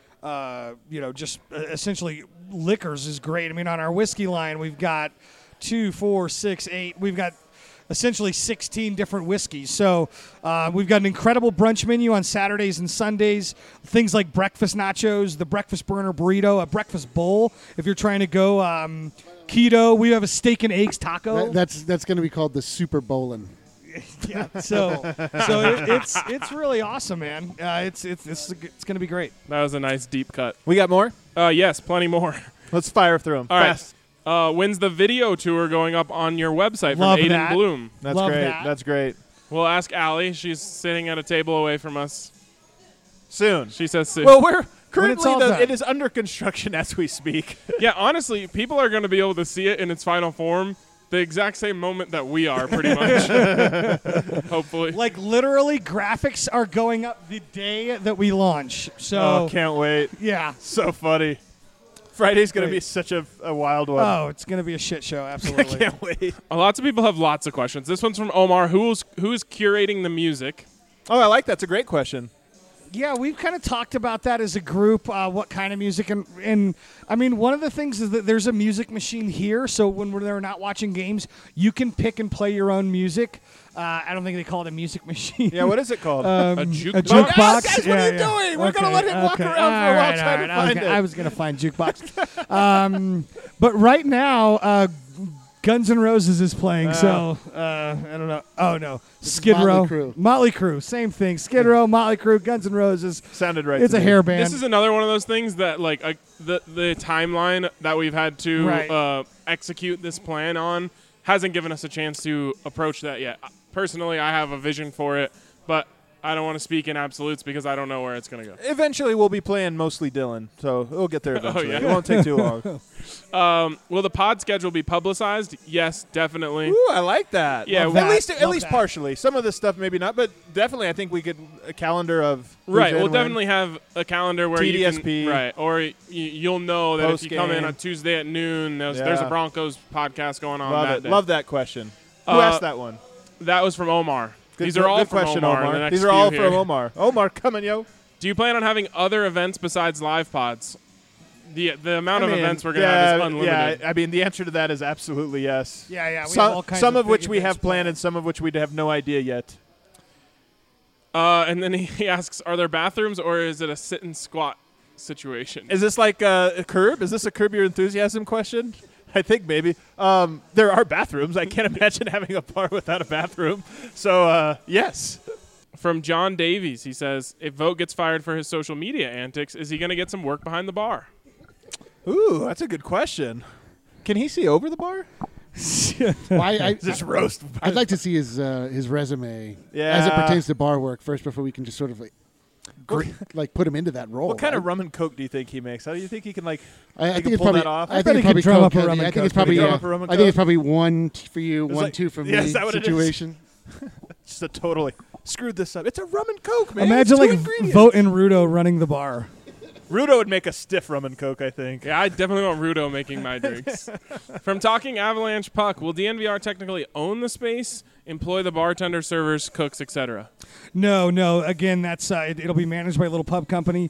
uh, you know just uh, essentially liquors is great. I mean, on our whiskey line, we've got two, four, six, eight. We've got essentially sixteen different whiskeys. So uh, we've got an incredible brunch menu on Saturdays and Sundays. Things like breakfast nachos, the breakfast burner burrito, a breakfast bowl. If you're trying to go um, keto, we have a steak and eggs taco. That- that's that's going to be called the Super Bowlin'. yeah. So so it, it's it's really awesome, man. Uh, it's it's it's it's going to be great. That was a nice deep cut. We got more? Uh, yes, plenty more. Let's fire through them. All right. Fast. Uh, when's the video tour going up on your website from Love Aiden that. Bloom? That's Love great. that. That's great. We'll ask Allie. She's sitting at a table away from us. Soon. She says soon. Well, we're currently all the, done. it is under construction as we speak. Yeah, honestly, people are going to be able to see it in its final form the exact same moment that we are, pretty much. Hopefully. Like literally, graphics are going up the day that we launch. So Oh, can't wait. yeah. So funny. Friday's going to Great. be such a, a wild one. Oh, it's going to be a shit show. I Absolutely. can't wait. Uh, Lots of people have lots of questions. This one's from Omar. Who's who's curating the music? Oh, I like that. It's a great question. Yeah, we've kind of talked about that as a group, uh, what kind of music. And, and, I mean, one of the things is that there's a music machine here, so when we're there not watching games, you can pick and play your own music. Uh, I don't think they call it a music machine. Yeah, what is it called? Um, A a jukebox? jukebox. Guys, guys, what yeah, are you yeah. doing? We're gonna Okay, let him walk okay. around for a All while right, trying all to right. I was find gonna- it. I was going to find jukebox. um, but right now, uh, Guns N' Roses is playing, so uh, I don't know. Oh, no. Skid Motley Row. Crue. Motley Crue. Same thing. Skid Row, Motley Crue, Guns N' Roses. Sounded right. It's to a me. hair band. This is another one of those things that, like, uh, the the timeline that we've had to Right. uh, execute this plan on hasn't given us a chance to approach that yet. Personally, I have a vision for it, but I don't want to speak in absolutes because I don't know where it's going to go. Eventually, we'll be playing mostly Dylan, so we'll get there eventually. yeah. It won't take too long. Um, will the pod schedule be publicized? Yes, definitely. Ooh, I like that. Yeah, at that. least at Love least that. partially. Some of this stuff maybe not, but definitely I think we could a calendar of who's Right, in, we'll when. definitely have a calendar where T D S you P. can, right, or y- you'll know that if you come in Post-game. on Tuesday at noon, there's, there's a Yeah. Broncos podcast going on Love that it. day. Love that question. Who Uh, asked that one? That was from Omar. Good, These are all good from question, Omar. Omar. The next These are few all here. from Omar. Omar, coming yo. Do you plan on having other events besides live pods? The the amount I of mean, events we're gonna yeah, have is unlimited. Yeah, I mean the answer to that is absolutely yes. Yeah, yeah. We some have all kinds some of, of which big we events have planned and some of which we have no idea yet. Uh, and then he, he asks, are there bathrooms or is it a sit and squat situation? Is this like uh, a curb? Is this a curb your enthusiasm question? I think maybe. Um, there are bathrooms. I can't imagine having a bar without a bathroom. So uh, yes. From John Davies, he says, if Vogt gets fired for his social media antics, is he going to get some work behind the bar? Ooh, that's a good question. Can he see over the bar? Well, I, I, Just roast. I'd like to see his uh, his resume as it Yeah. pertains to bar work first before we can just sort of like gr- like put him into that role. What kind of right? rum and coke do you think he makes? How do you think he can like? I, I he think can it's pull probably. that off? I, I bet think he it's could probably drum up coke a rum heavy. and I think it's coke. probably. Drum Yeah, up a rum and I think it's coke? probably one t- for you, It's one like- two for yeah, me is that what it is? situation. Just a totally screwed this up. It's a rum and coke, man. Imagine It's two like ingredients. Vogt and Rudo running the bar. Rudo would make a stiff rum and coke, I think. Yeah, I definitely want Rudo making my drinks. From Talking Avalanche Puck, will D N V R technically own the space, employ the bartender, servers, cooks, et cetera? No, no. Again, that's uh, it, it'll be managed by a little pub company,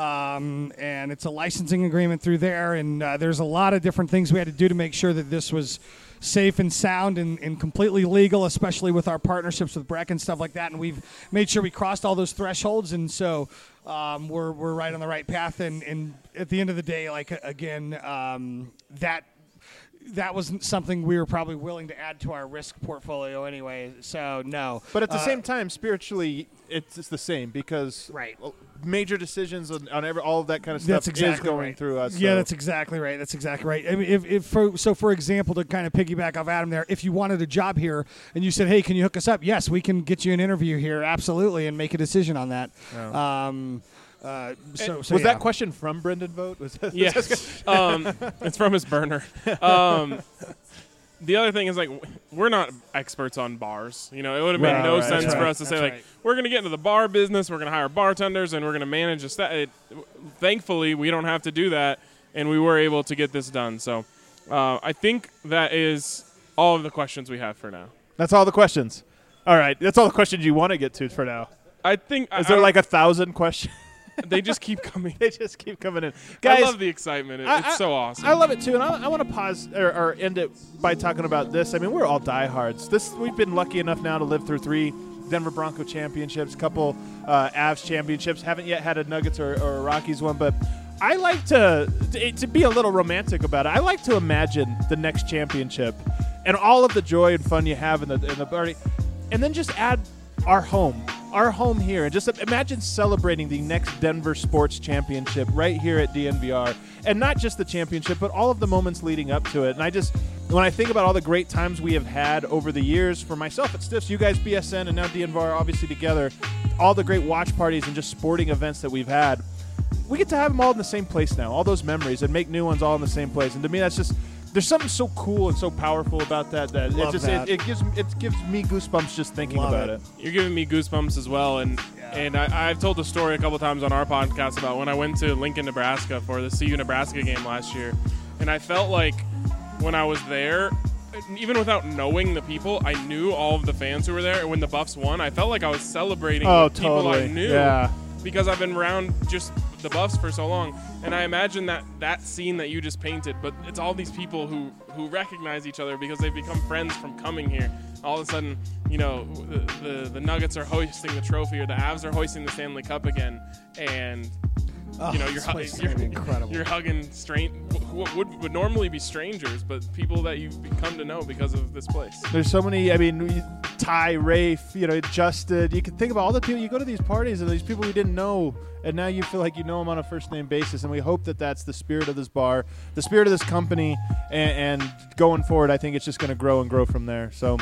um, and it's a licensing agreement through there. And uh, there's a lot of different things we had to do to make sure that this was safe and sound and, and completely legal, especially with our partnerships with Breck and stuff like that. And we've made sure we crossed all those thresholds, and so um, we're we're right on the right path. And, and at the end of the day, like again, um, that. That wasn't something we were probably willing to add to our risk portfolio anyway. So no. But at the Uh, same time, spiritually, it's, it's the same because Right. major decisions on, on every, all of that kind of stuff That's exactly is going right. through us. Yeah, so. that's exactly right. That's exactly right. I mean, if, if for, so, for example, to kind of piggyback off Adam there, if you wanted a job here and you said, "Hey, can you hook us up?" Yes, we can get you an interview here, absolutely, and make a decision on that. Um, uh, so, so was yeah. that question from Brendan Vogt? Was that, Yes. um, it's from his burner. Um, the other thing is, like, we're not experts on bars. You know, it would have made Right, no right, sense that's for right. us to say, That's like, right. we're going to get into the bar business, we're going to hire bartenders, and we're going to manage a sta- it, Thankfully, we don't have to do that, and we were able to get this done. So uh, I think that is all of the questions we have for now. That's all the questions. All right, that's all the questions you want to get to for now. I think Is I, there I- like a thousand questions? they just keep coming. They just keep coming in. Guys, I love the excitement. It, I- it's I- so awesome. I love it too, and I, I want to pause or, or end it by talking about this. I mean, we're all diehards. This we've been lucky enough now to live through three Denver Bronco championships, couple uh, Avs championships. Haven't yet had a Nuggets or, or a Rockies one, but I like to, to to be a little romantic about it. I like to imagine the next championship and all of the joy and fun you have in the in the party, and then just add our home, our home here, and just imagine celebrating the next Denver Sports Championship right here at D N V R, and not just the championship, but all of the moments leading up to it. And I just, when I think about all the great times we have had over the years, for myself at Stiffs, you guys B S N, and now D N V R obviously together, all the great watch parties and just sporting events that we've had, we get to have them all in the same place now, all those memories, and make new ones all in the same place. And to me, that's just, there's something so cool and so powerful about that that it Love just that. It, it gives it gives me goosebumps just thinking Love about it. it. You're giving me goosebumps as well, and and I, I've told the story a couple times on our podcast about when I went to Lincoln, Nebraska for the C U Nebraska game last year, and I felt like when I was there, even without knowing the people, I knew all of the fans who were there, and when the Buffs won, I felt like I was celebrating Oh, with people totally. I knew Yeah. because I've been around just the Buffs for so long, and I imagine that that scene that you just painted, but it's all these people who who recognize each other because they've become friends from coming here. All of a sudden, you know, the the, the Nuggets are hoisting the trophy, or the Avs are hoisting the Stanley Cup again, and Oh, you know, you're, this hu- place is you're, gonna be incredible. you're hugging strange what would, would normally be strangers, but people that you've come to know because of this place. There's so many. I mean, we- Ty, Rafe, you know, Justin. You can think about all the people. You go to these parties and these people we didn't know, and now you feel like you know them on a first name basis. And we hope that that's the spirit of this bar, the spirit of this company, and, and going forward, I think it's just going to grow and grow from there. So,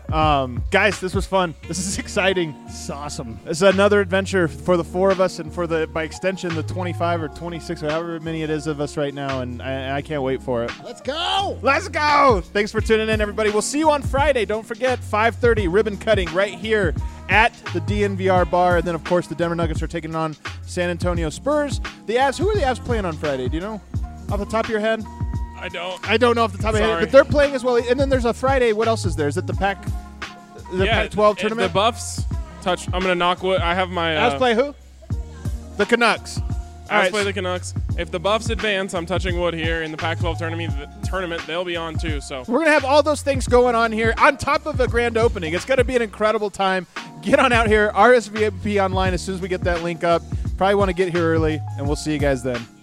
um, guys, this was fun. This is exciting. It's awesome. This is another adventure for the four of us, and for the by extension the twenty-five or twenty-six or however many it is of us right now. And I, I can't wait for it. Let's go. Let's go! Thanks for tuning in, everybody. We'll see you on Friday. Don't forget, five thirty, ribbon cutting right here at the D N V R bar. And then, of course, the Denver Nuggets are taking on San Antonio Spurs. The Avs, who are the Avs playing on Friday? Do you know? Off the top of your head? I don't. I don't know off the top of my head, Sorry. but they're playing as well. And then there's a Friday. What else is there? Is it the Pac, the yeah, Pac twelve if tournament? The Buffs touch. I'm gonna knock wood. I have my. Avs Uh, play who? The Canucks. All Avs right, play the Canucks. If the Buffs advance, I'm touching wood here in the Pac twelve tournament. The tournament, they'll be on too. So We're going to have all those things going on here on top of a grand opening. It's going to be an incredible time. Get on out here, R S V P online as soon as we get that link up. Probably want to get here early, and we'll see you guys then.